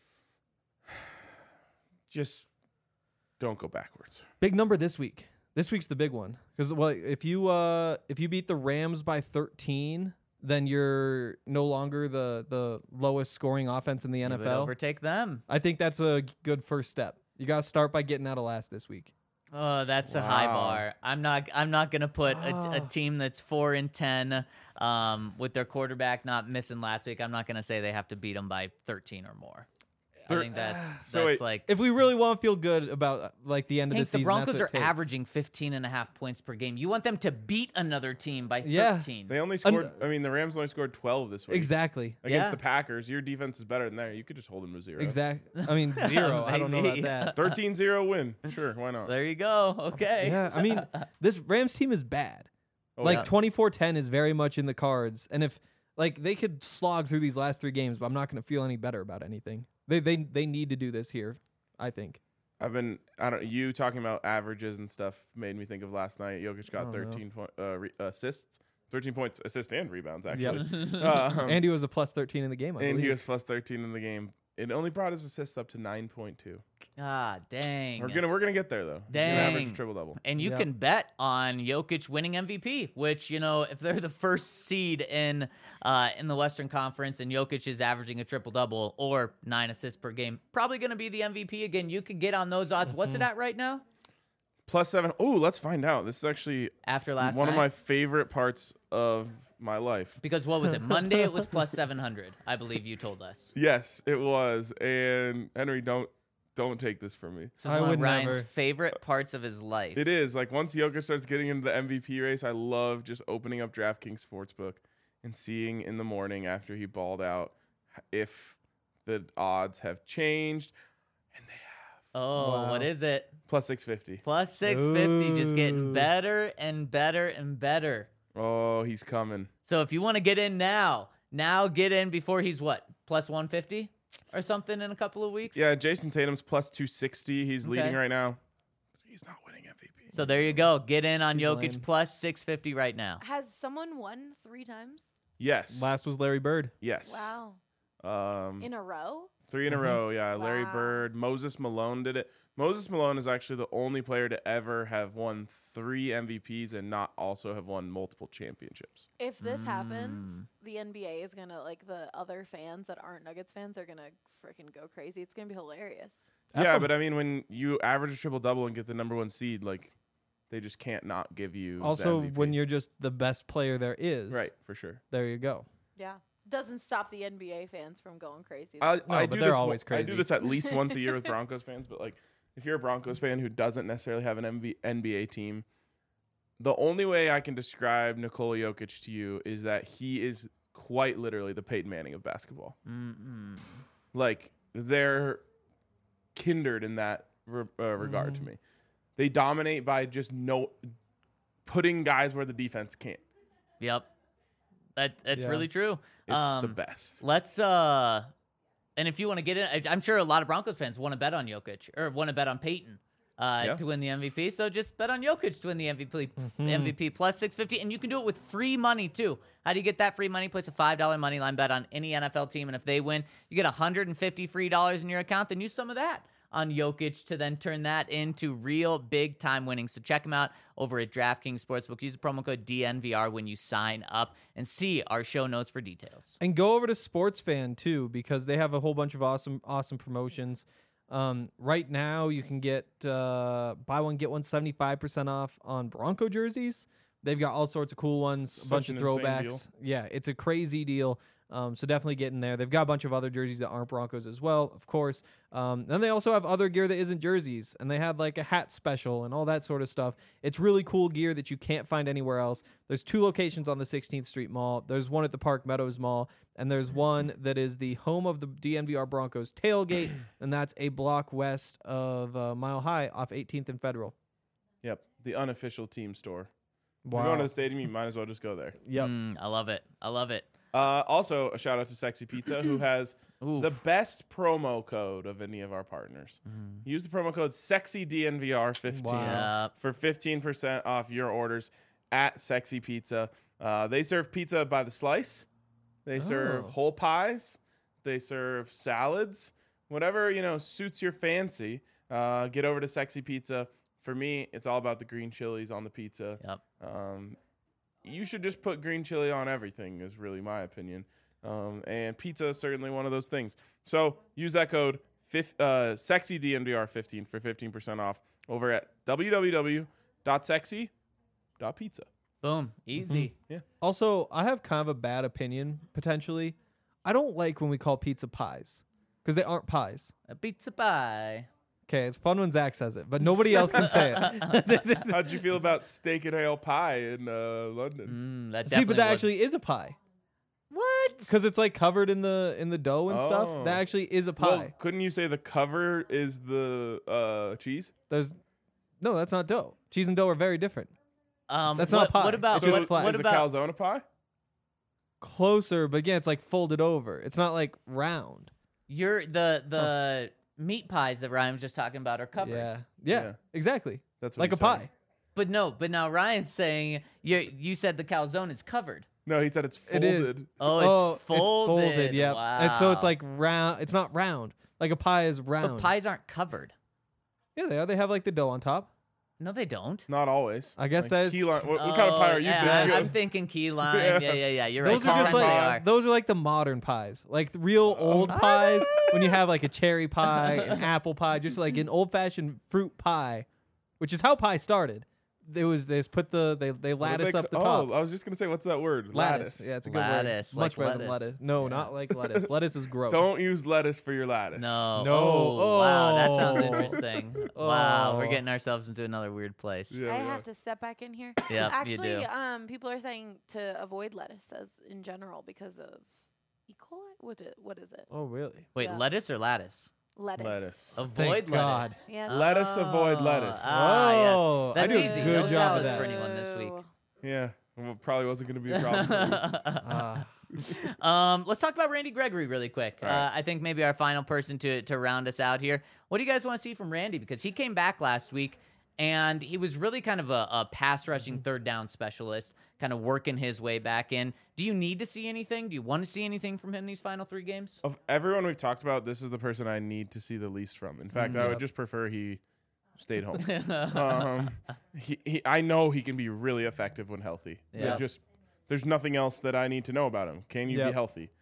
Just don't go backwards. Big number this week. This week's the big one. Because, well, if you beat the Rams by 13, then you're no longer the lowest scoring offense in the You would NFL. overtake them. I think that's a good first step. You got to start by getting out of last this week. Oh, that's a high Wow. bar. I'm not gonna put a Oh. team that's 4-10 with their quarterback not missing last week. I'm not gonna say they have to beat them by 13 or more. I think that's So wait, like. If we really want to feel good about like the end Hank, of the the season, Broncos that's are what it takes. averaging 15.5 points per game. You want them to beat another team by Yeah. 13. They only scored. I mean, the Rams only scored 12 this week. Exactly. Against Yeah. the Packers, your defense is better than there. You could just hold them to 0. Exactly. I mean, 0. I don't know about Maybe. that. 13-0 win. Sure, why not? There you go. Okay. Yeah, I mean, this Rams team is bad. Oh, Like yeah. 24-10 is very much in the cards, and if like they could slog through these last 3 games, but I'm not going to feel any better about anything. They need to do this here, I think. You talking about averages and stuff made me think of last night. Jokic got Oh, no. 13 assists, 13 points, assists and rebounds Yep. actually. Andy was a plus 13 in the game. I and he believe. was plus 13 in the game. It only brought his assists up to 9.2. Ah, dang. We're gonna get there though. He's gonna average a Dang. triple double. And you Yeah. can bet on Jokic winning MVP, which, if they're the first seed in the Western Conference and Jokic is averaging a triple-double or 9 assists per game, probably going to be the MVP again. You could get on those odds. What's it at right now +7. Oh, let's find out. This is actually after last one night? of my favorite parts of my life. Because what was it? Monday it was +700, I believe you told us. Yes, it was. And Henry, don't take this from me. This is I one of would Ryan's never. favorite parts of his life. It is like once Jokic starts getting into the MVP race, I love just opening up DraftKings Sportsbook and seeing in the morning after he balled out if the odds have changed, and they have Oh, Wow. what is it? +650. +650, just getting Ooh. better and better and better. Oh, he's coming. So if you want to get in now get in before he's what? +150 or something in a couple of weeks? Yeah, Jason Tatum's +260. He's leading Okay. right now. He's not winning MVP. So there you go. Get in on He's Jokic lame. +650 right now. Has someone won 3 times? Yes. Last was Larry Bird. Yes. Wow. In a row? 3 in a row. Yeah, Larry Wow. Bird, Moses Malone did it. Moses Malone is actually the only player to ever have won 3 MVPs and not also have won multiple championships. If this happens, the NBA is gonna the other fans that aren't Nuggets fans are gonna freaking go crazy. It's gonna be hilarious. Yeah, but I mean, when you average a triple double and get the number 1 seed, like they just can't not give you. the Also, MVP. when you're just the best player there is, right, for sure. there you go. Yeah. Doesn't stop the NBA fans from going crazy. I but do they're this. always I do crazy. this at least once a year with Broncos fans, but like if you're a Broncos fan who doesn't necessarily have an NBA team, the only way I can describe Nikola Jokic to you is that he is quite literally the Peyton Manning of basketball. Mm-mm. Like they're kindred in that regard to me. They dominate by just putting guys where the defense can't. Yep. That's Yeah. really true. It's the best. Let's and if you want to get in, I'm sure a lot of Broncos fans want to bet on Jokic or want to bet on Peyton to win the MVP. So just bet on Jokic to win the MVP. MVP +650, and you can do it with free money too. How do you get that free money? Place a $5 money line bet on any NFL team, and if they win, you get $150 free in your account. Then use some of that on Jokic to then turn that into real big time winnings. So check them out over at DraftKings Sportsbook. Use the promo code DNVR when you sign up and see our show notes for details. And go over to SportsFan too, because they have a whole bunch of awesome promotions. Right now, you can get buy one get one 75% off on Bronco jerseys, They've got all sorts of cool ones, a Such bunch of an insane throwbacks. deal. Yeah, it's a crazy deal. So definitely get in there. They've got a bunch of other jerseys that aren't Broncos as well, of course. Then they also have other gear that isn't jerseys, and they had like a hat special and all that sort of stuff. It's really cool gear that you can't find anywhere else. There's 2 locations on the 16th Street Mall. There's one at the Park Meadows Mall, and there's one that is the home of the DNVR Broncos tailgate, and that's a block west of Mile High off 18th and Federal. Yep, the unofficial team store. If Wow. you're going to the stadium, you might as well just go there. Yep. I love it. I love it. Also, a shout out to Sexy Pizza, who has Oof. the best promo code of any of our partners. Use the promo code SexyDNVR15 Wow. for 15% off your orders at Sexy Pizza. They serve pizza by the slice. They serve Oh. whole pies. They serve salads. Whatever, suits your fancy. Get over to Sexy Pizza. For me, it's all about the green chilies on the pizza. Yep. You should just put green chili on everything is really my opinion. And pizza is certainly one of those things. So use that code SexyDNVR15 for 15% off over at www.sexy.pizza. Boom. Easy. Also, I have kind of a bad opinion, potentially. I don't like when we call pizza pies because they aren't pies. A pizza pie. Okay, it's fun when Zach says it, but nobody else can say it. How'd you feel about steak and ale pie in London? That See, definitely but that was- actually is a pie What? because it's like covered in the dough and Oh. stuff. That actually is a pie. Well, couldn't you say the cover is the cheese? There's no, that's not dough. Cheese and dough are very different. what, That's not pie. What about It's just what, flat. what is about a calzone a pie? Closer, but again, it's like folded over. It's not like round. your the meat pies that Ryan was just talking about are covered? Yeah, Yeah. exactly. That's what Like a he's saying. pie. But now Ryan's saying you said the calzone is covered. No, he said it's It is. folded. Oh, it's folded. It's folded. Yeah, and so it's Wow. like round. It's not round. Like a pie is round. But pies aren't covered. Yeah, they are. They have like the dough on top. No, they don't. Not always. I guess Like that's- key lime. What kind of pie are you yeah, thinking? I'm thinking key lime. Yeah. Yeah. You're Those right. are just Sometimes they like are. those are like the modern pies, like the real old pies. When you have like a cherry pie, an apple pie, just like an old fashioned fruit pie, which is how pie started. They just put they What do lattice they up the ca- top. Oh, I was just gonna say, what's that word? Lattice. Yeah, it's a good Lattice, word. Much like better than lettuce. lettuce. No, Yeah. not like lettuce. Lettuce is gross. Don't use lettuce for your lattice. No. No. Oh, wow, that sounds Oh. interesting. Wow, we're Oh. getting ourselves into another weird place. Yeah, I we are. have to step back in here. Yep, you Actually, do. people are saying to avoid lettuce as in general because of E. coli. What is it? Oh, really? Wait, Yeah. lettuce or lattice? Lettuce. Lettuce. Avoid God. lettuce. Yes. Lettuce, avoid lettuce. Yes. Oh, That's I do a easy. good No job of salads that. for anyone this week. Yeah, well, probably wasn't gonna be a problem. for you. Let's talk about Randy Gregory really quick. All right. I think maybe our final person to round us out here. What do you guys want to see from Randy? Because he came back last week and he was really kind of a pass rushing third down specialist, kind of working his way back in. Do you need to see anything? Do you want to see anything from him these final 3 games? Of everyone we've talked about, this is the person I need to see the least from. In fact, I would just prefer he stayed home. I know he can be really effective when healthy. Yeah. There's nothing else that I need to know about him. Can you be Yep. healthy?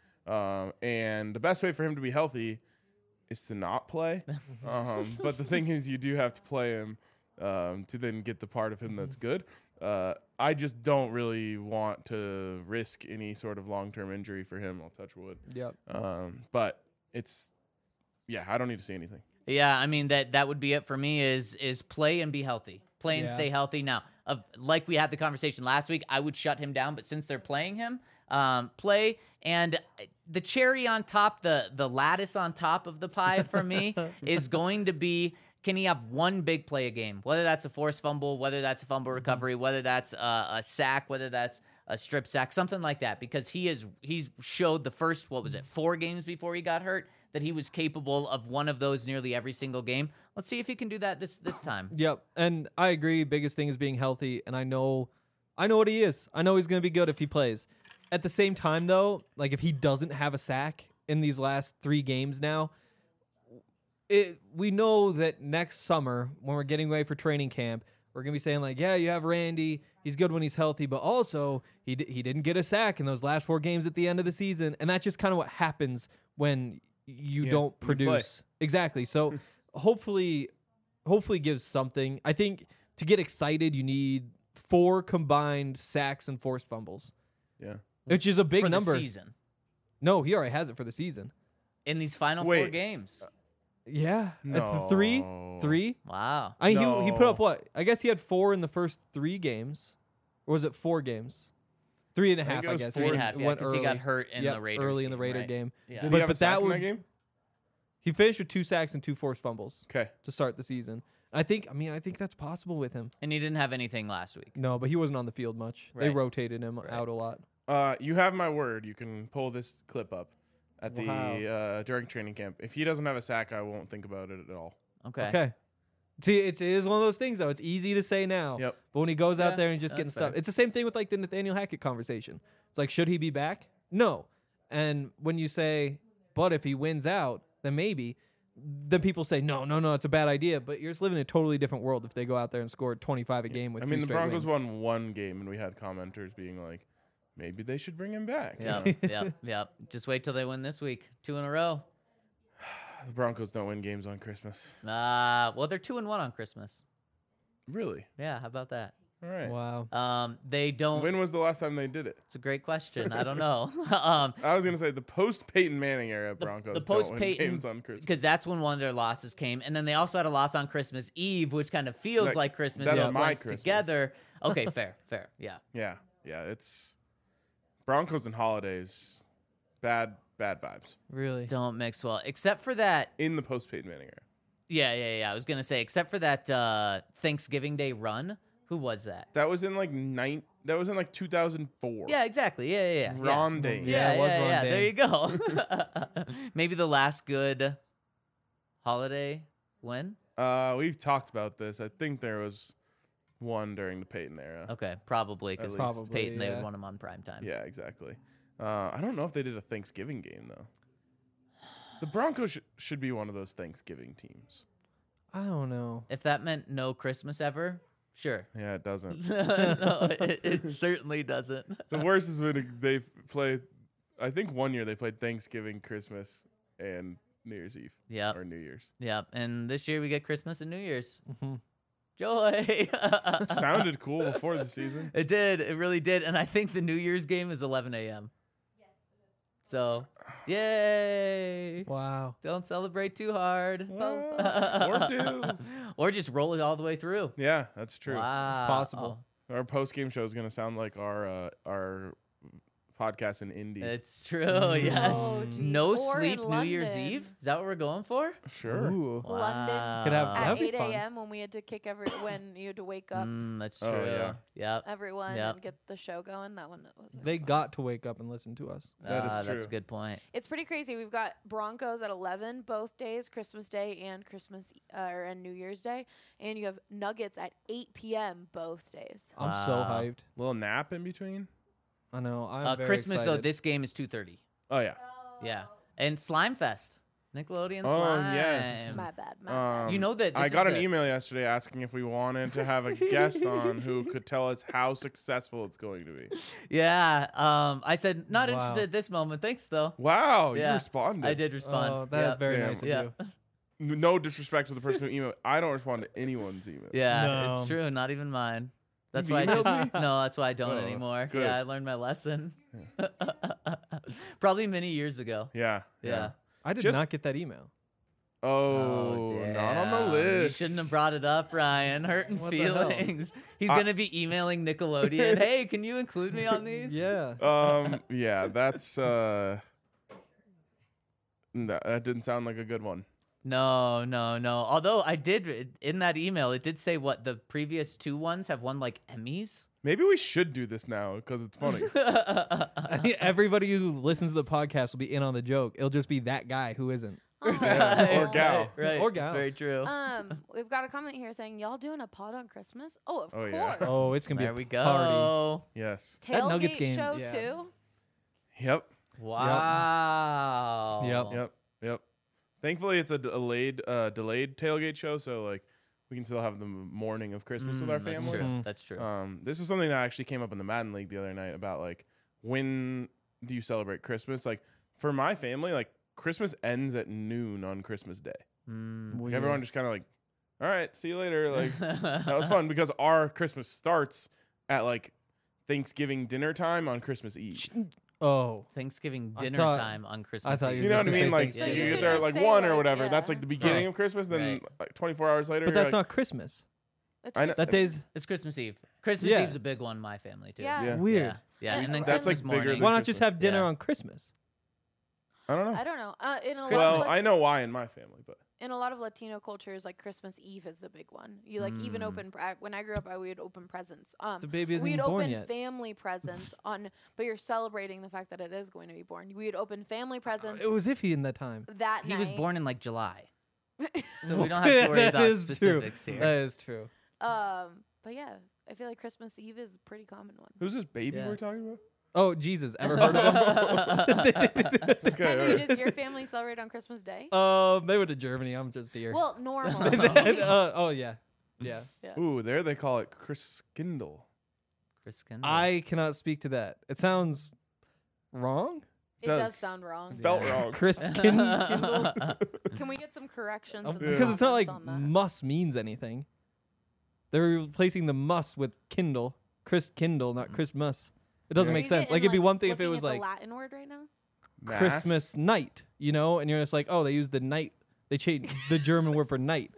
And the best way for him to be healthy is to not play. But the thing is, you do have to play him to then get the part of him that's good. I just don't really want to risk any sort of long-term injury for him. I'll touch wood. Yep. But I don't need to see anything. Yeah, I mean that would be it for me is play and be healthy. Play and Yeah. stay healthy. Now, like we had the conversation last week, I would shut him down, but since they're playing him, play and the cherry on top, the lattice on top of the pie for me is going to be, can he have one big play a game? Whether that's a forced fumble, whether that's a fumble recovery, whether that's a sack, whether that's a strip sack, something like that, because he's showed the first, 4 games before he got hurt, that he was capable of one of those nearly every single game. Let's see if he can do that this time. Yep. And I agree. Biggest thing is being healthy. And I know what he is. I know he's going to be good if he plays. At the same time, though, like if he doesn't have a sack in these last 3 games now, we know that next summer when we're getting ready for training camp, we're going to be saying like, yeah, you have Randy. He's good when he's healthy, but also he didn't get a sack in those last 4 games at the end of the season. And that's just kind of what happens when you don't you play. produce. Exactly. So hopefully gives something. I think to get excited, you need 4 combined sacks and forced fumbles, Yeah. which is a big for number. the season No, he already has it for the season. in these final 4 Wait. games. Yeah, No. three. Wow. I mean, he put up No. what? I guess he had 4 in the first 3 games, or was it 4 games? 3.5, I think it I was guess. 3.5, yeah, Went because he got early. hurt in Yep, the Raiders early in the game, Raider right? game. Yeah. Did But- he have but a sack that in would- that game? He finished with 2 sacks and 2 forced fumbles Okay. to start the season. I think that's possible with him. And he didn't have anything last week. No, but he wasn't on the field much. They Right. rotated him out a lot. You have my word. You can pull this clip up at the Wow. during training camp. If he doesn't have a sack, I won't think about it at all. Okay. Okay. See, it is one of those things though. It's easy to say now, Yep. but when he goes out Yeah, there and just getting that's stuff, fair. it's the same thing with like the Nathaniel Hackett conversation. It's like, should he be back? No. And when you say, but if he wins out, then maybe. Then people say, no, it's a bad idea. But you're just living in a totally different world if they go out there and score 25 a game with I 3 mean, the straight Broncos wins. won one game, and we had commenters being like, maybe they should bring him back. Yep. Just wait till they win this week. 2 in a row. The Broncos don't win games on Christmas. Well, they're 2-1 on Christmas. Really? Yeah, how about that? All right. Wow. They don't. When was the last time they did it? It's a great question. I don't know. I was gonna say the post Peyton Manning era Broncos the don't win post-Peyton- games on Christmas. Because that's when one of their losses came, and then they also had a loss on Christmas Eve, which kind of feels That- like Christmas. that's It my blends Christmas. together. Okay, fair, yeah. Yeah, it's Broncos and holidays, bad vibes Really? Don't mix well, except for that. in the post Peyton Manning era. Yeah. I was gonna say, except for that Thanksgiving Day run. Who was that? That was in like 2004. Yeah, exactly. Yeah. Ron Dane. Yeah, it was Ron yeah. There Dane. you go. Maybe the last good holiday win. We've talked about this. I think there was one during the Peyton era. Okay, probably because At least. Probably, Peyton they yeah. would want him on prime time. Yeah, exactly. I don't know if they did a Thanksgiving game though. The Broncos should be one of those Thanksgiving teams. I don't know. If that meant no Christmas ever, sure. Yeah, it doesn't. No, it certainly doesn't. The worst is when they play. I think one year they played Thanksgiving, Christmas, and New Year's Eve Yep. or New Year's. Yep. And this year we get Christmas and New Year's. Mhm. Joy. Sounded cool before the season. It did. It really did. And I think the New Year's game is 11 a.m. So, yay. Wow. Don't celebrate too hard. Both. Or do. Or just roll it all the way through. Yeah, that's true. Wow. possible. Our post game show is gonna sound like our podcast in Indy. It's true. Yes. Oh, geez. No Or sleep in New Year's London. Eve. Is that what we're going for? Sure. Ooh. London. Could have- Wow. At That'd be 8 fun. a.m. when we had to kick when you had to wake up That's Oh, true. yeah. Yep. everyone Yep. and get the show going. That one was. They got to wake up and listen to us. That is That's a true. good point. It's pretty crazy. We've got Broncos at 11 both days, Christmas Day and and New Year's Day, and you have Nuggets at 8 p.m. both days. I'm so Wow. hyped. Little nap in between. I know. I'm very Christmas though, excited. this game is 2:30. Oh yeah. Yeah. And Slime Fest. Nickelodeon Oh, Slime. yes. My bad. My bad. You know that I this got is an the- email yesterday asking if we wanted to have a guest on who could tell us how successful it's going to be. Yeah. I said not Wow. interested at this moment. Thanks though. Wow, you Yeah, responded. I did respond. Oh, that is very Damn. nice of Yeah. you. No disrespect to the person who emailed. I don't respond to anyone's email. Yeah, No. it's true. Not even mine. That's You've why I just emailed me? no. That's why I don't Oh, anymore. good. Yeah, I learned my lesson. Probably many years ago. Yeah. Yeah. I did Just- not get that email. Oh, not on the damn. list. You shouldn't have brought it up, Ryan. Hurting What the hell? feelings. He's gonna be emailing Nickelodeon. Hey, can you include me on these? Yeah. Yeah, that's no, that didn't sound like a good one. No. Although I did in that email, it did say what the previous 2 ones have won like Emmys. Maybe we should do this now because it's funny. I think everybody who listens to the podcast will be in on the joke. It'll just be that guy who isn't. Yeah, or gal. Right. Or gal. Very true. We've got a comment here saying y'all doing a pod on Christmas. Oh, of Oh, course. yeah. Oh, it's gonna be There a we go. party. Yes. That Nuggets Tailgate game, show yeah. too. Yep. Wow. Yep. Thankfully, it's a delayed tailgate show, so like we can still have the morning of Christmas with our That's families. true. That's true. This is something that actually came up in the Madden League the other night about like when do you celebrate Christmas? Like for my family, like Christmas ends at noon on Christmas Day. Weird. Everyone just kind of like, all right, see you later. Like that was fun because our Christmas starts at like Thanksgiving dinner time on Christmas Eve. Oh, Thanksgiving I dinner thought- time on Christmas thought Eve. You know what I just gonna mean? say Like Thanksgiving. you Yeah, get yeah, there yeah. at like Say, 1 or like, whatever. yeah. That's like the beginning Right. of Christmas. Then Right. like 24 hours later. but you're that's like, not Christmas. It's I know- Christmas. That day's It's Christmas Eve. Christmas Yeah. Eve's a big one in my family too. Yeah. Yeah. weird. Yeah. Yeah. And And then that's, Christmas like, bigger morning. than Why not just Christmas. have dinner Yeah. on Christmas? I don't know. I don't know. In a lot Well, of I know why in my family, but in a lot of Latino cultures, like Christmas Eve is the big one. You like even open when I grew up, we would open presents. The baby isn't we'd even born open yet. family presents on, but you're celebrating the fact that it is going to be born. We would open family presents It was iffy in that time. that He night. was born in like July. So we don't have to worry That about is true. specifics here. That is true. But yeah, I feel like Christmas Eve is a pretty common one. who's this baby Yeah. we're talking about? Oh, Jesus. Ever heard of him? Okay, all Henry, right. does your family celebrate on Christmas Day? They went to Germany. I'm just here. Well, normal. Oh, yeah. Yeah. Ooh, there they call it Christkindl. Chris Kendall. I cannot speak to that. It sounds wrong. It does. does sound wrong. Felt wrong. Chris Kindle. Can we get some corrections? in the Because it's not like comments on that? muss means anything. They're replacing the muss with Kindle. Chris Kindle, not Christmas. It doesn't Are make you sense. getting, Like it'd be one thing if it looking was at like the Latin word right now. Mass? Christmas night, you know, and you're just like, oh, they use the night. They changed the German word for night.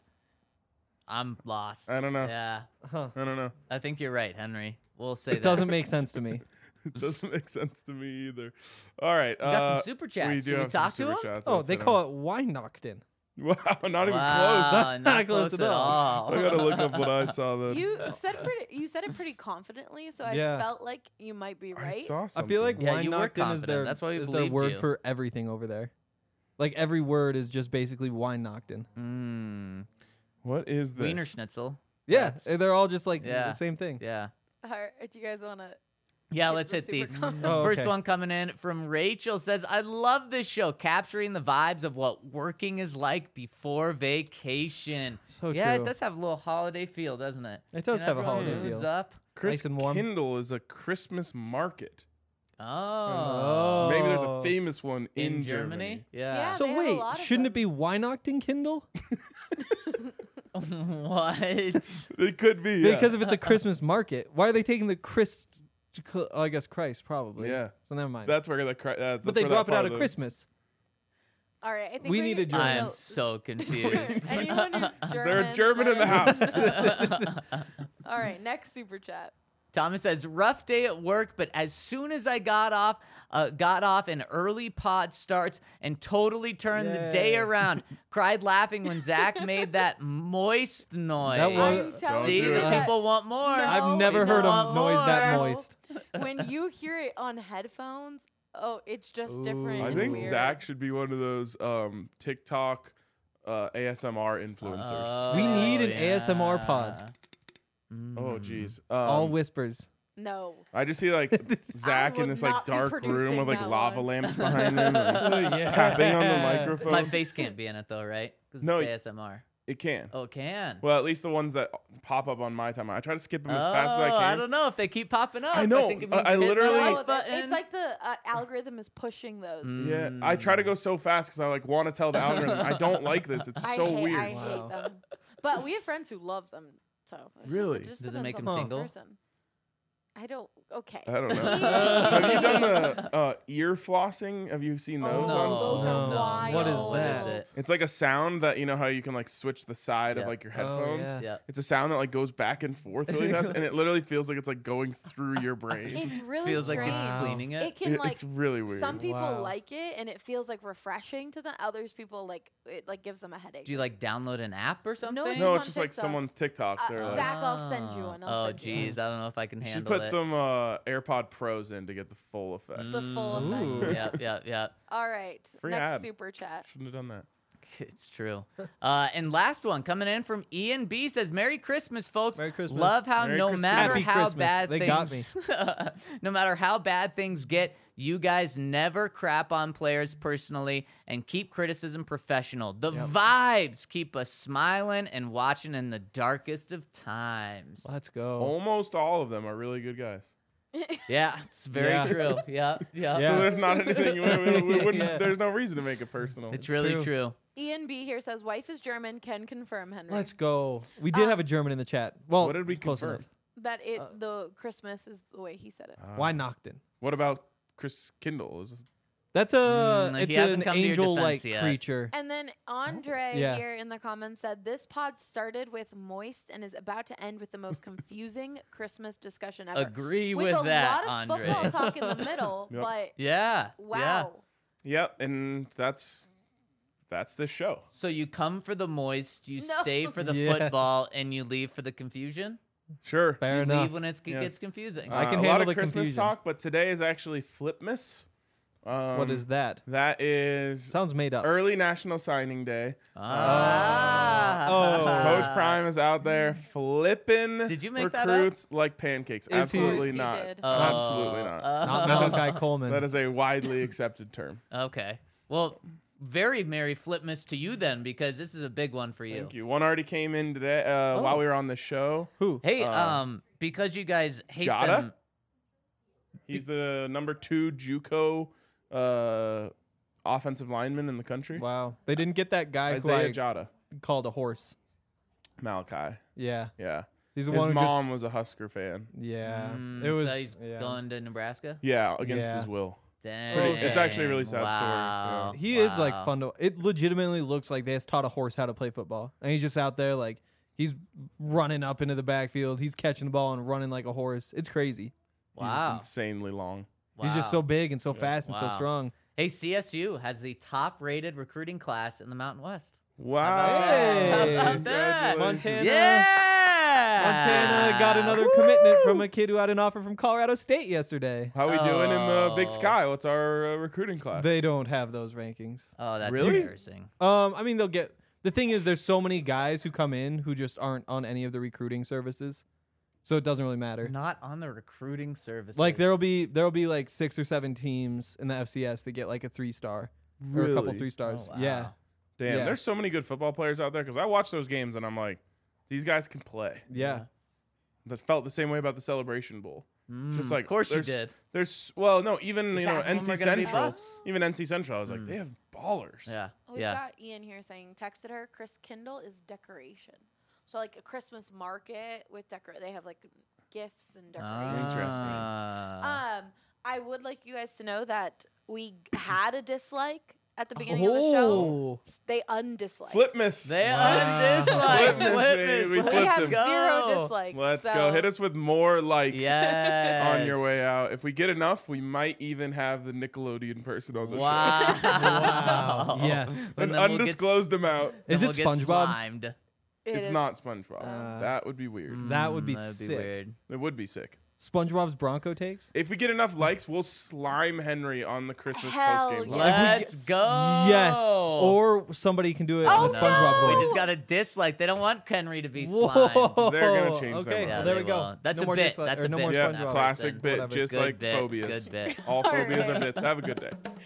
I'm lost. I don't know. Yeah. Huh. I don't know. I think you're right, Henry. We'll say It that. doesn't make sense to me. It doesn't make sense to me either. All right. We got some super chats. We Should do we have talk some to super him? chats. Oh, Let's they hit 'em. call it Weihnachten. Wow, not even Wow, close. not close close at at all. I gotta look up what I saw then. You said it pretty confidently, so Yeah. I felt like you might be I right. saw I something. feel like Yeah, you were Weihnachten is confident. their, That's why we is their believed word you. for everything over there. Like every word is just basically Weihnachten. Mm. What is this? Wiener Schnitzel. Yeah, That's- they're all just like Yeah. the same thing. Yeah. Alright, do you guys want to? Yeah, Get let's the hit super these. comments. Oh, First okay. one coming in from Rachel says, I love this show, capturing the vibes of what working is like before vacation. So Yeah, true. it does have a little holiday feel, doesn't it? It does You know, have a everyone's holiday mood's feel. up. Nice and warm. Christkindl is a Christmas market. Oh. Maybe there's a Oh. famous one in, In Germany? Yeah. Yeah. So they have a wait, lot of shouldn't them. it be Weihnachten Kindle? What? It could be. Yeah. Because if it's a Christmas market, why are they taking the Christ? I guess Christ probably. Yeah. So never mind. That's where the. but they drop it out of Christmas. All right, I think We we're need a gonna- German. I'm so confused. Anyone who's German. Is there a German in the let house? us- All right, next super chat. Thomas says, rough day at work, but as soon as I got off, an early pod starts and totally turned the day Yeah. around. Cried laughing when Zach made that moist noise. That was- I'm telling See, you the that people want more. No. I've never People heard want a noise that more. moist. when you hear it on headphones, oh, it's just different. Ooh. I and think weird. Zach should be one of those TikTok ASMR influencers. We need an ASMR pod. Oh jeez. All whispers. No. I just see like Zach in would this like not be dark room producing with like that lava one. lamps behind him, like, Yeah. tapping on the microphone. My face can't be in it though, right? 'Cause No, it's ASMR. It can. Oh, it can. Well, at least the ones that pop up on my time. I try to skip them as fast as I Oh, can. don't know if they keep popping up. I know. think it I means you're hitting the literally- like No, button. it's like the algorithm is pushing those. Yeah, I try to go so fast because I like want to tell the algorithm I don't like this. It's I so hate, weird. I Wow. hate them. But we have friends who love them. So it's Really? Just, it just Does it make depends them on the tingle? person. I don't. Okay. I don't know. Have you done the ear flossing? Have you seen those? Oh, on? those are No. wild. What is What that? is it? It's like a sound that you know how you can like switch the side Yeah. of like your Oh, headphones. yeah. Yeah. It's a sound that like goes back and forth really fast, and it literally feels like it's like going through your brain. It's really Feels like strange. it's Wow. cleaning it. It can like It's really weird. some people Wow. like it and it feels like refreshing to them. Others people like it like gives them a headache. Do you like download an app or something? it's no, on it's just like TikTok. someone's TikTok. They're like, Zach, I'll send you one. I'll Oh, send you one. geez, I don't know if I can you should handle put it. some AirPod Pros in to get the full effect. The full Ooh. effect. Yeah. All right. Free Next ad. super chat. Shouldn't have done that. It's true. And last one coming in from Ian B says, "Merry Christmas, folks. Merry Christmas. Love how Merry no Christmas. matter Happy how Christmas. bad They things, got no matter how bad things get, you guys never crap on players personally and keep criticism professional. The vibes keep us smiling and watching in the darkest of times." Let's go. Almost all of them are really good guys. Yeah, it's very Yeah. true. Yeah. Yeah. So there's not anything. We wouldn't, Yeah. There's no reason to make it personal. It's really true. true. Ian B here says wife is German. Can confirm, Henry. Let's go. We did have a German in the chat. Well, What did we close confirm? enough. That the Christmas is the way he said it. Why Nocton? What about Chris Kindle? That's it's he hasn't an come to your angel-like defense yet. creature. And then Andre Yeah. here in the comments said, this pod started with moist and is about to end with the most confusing Christmas discussion ever. Agree with with a that, lot of Andre. football talk in the middle, Yep. but Yeah. wow. Yeah. Yep, and that's this show. So you come for the moist, you No. stay for the Yeah. football, and you leave for the confusion? Sure. Fair you enough. leave when it Yes. gets confusing. I can a lot handle of the Christmas confusion. talk, but today is actually Flipmas. What is that? That is Sounds made up. early National Signing Day. Ah. Coach Prime is out there flipping Did you make that up? recruits like pancakes. Is he- Absolutely Of course not. he did. Absolutely not. Not That is- Malachi Coleman. That is a widely accepted term. Okay. Well, very Merry Flipmas to you then, because this is a big one for you. Thank you. One already came in today while we were on the show. Who? Hey, because you guys hate Jada? them. He's the number 2 JUCO offensive lineman in the country. Wow. They didn't get that guy who Isaiah I Jada. called a horse. Malachi. Yeah. Yeah. He's the His one who mom was a Husker fan. just. Yeah. Mm, It was. so he's yeah. going to Nebraska? Yeah, against Yeah. his will. Dang. It's actually a really sad story, Wow. yeah. He is like Wow. fun to. It legitimately looks like they just taught a horse how to play football, and he's just out there like he's running up into the backfield. He's catching the ball and running like a horse. It's crazy. He's Wow. insanely long. He's just so big and so fast and so Wow. strong. Hey, CSU has the top-rated recruiting class in the Mountain West. Wow. Hey. How about that? Montana. Yeah. Montana got another commitment from a kid who had an offer from Colorado State yesterday. How we doing in the Big Oh. Sky? What's our recruiting class? They don't have those rankings. Oh, that's Really? embarrassing. I mean, they'll get. The thing is, there's so many guys who come in who just aren't on any of the recruiting services, so it doesn't really matter. Not on the recruiting services. Like there'll be like 6 or 7 teams in the FCS that get like a 3-star or a couple Really? 3 stars. Oh, wow. Yeah. Damn, Yeah. there's so many good football players out there because I watch those games and I'm like, these guys can play. Yeah. That's felt the same way about the Celebration Bowl. It's just like of course you there's- did. There's even Half you know of them NC are gonna be Central, buffs. even NC Central. I was like, they have ballers. Yeah. We've yeah. got Ian here saying, texted her, Chris Kindle is decoration. So like a Christmas market with they have like gifts and decorations. Interesting. I would like you guys to know that we had a dislike at the beginning of the show. They undisliked. Flipmas. They Wow. undislike. Flipmas, baby. We We flipped have him. zero dislikes. Let's so go. Hit us with more likes Yes. on your way out. If we get enough, we might even have the Nickelodeon person on the show. Wow. Yes. And An then we'll get- undisclosed amount. then Is it we'll get SpongeBob? slimed. It It's is- not SpongeBob. That would be weird. That would be That'd be sick. weird. It would be sick. SpongeBob's Bronco takes? If we get enough likes, we'll slime Henry on the Christmas Hell postgame. yeah. live. Let's go. Yes. Or somebody can do it Oh, with SpongeBob We voice. just got a dislike. They don't want Henry to be Whoa. slimed. They're gonna change that Okay, one. Yeah, well, there they we go. will. That's no a more bit. dislike- That's or a no bit more from Yeah, that SpongeBob. classic person. bit, Whatever. just Good like bit, phobias. Good bit. All phobias are bits. Have a good day.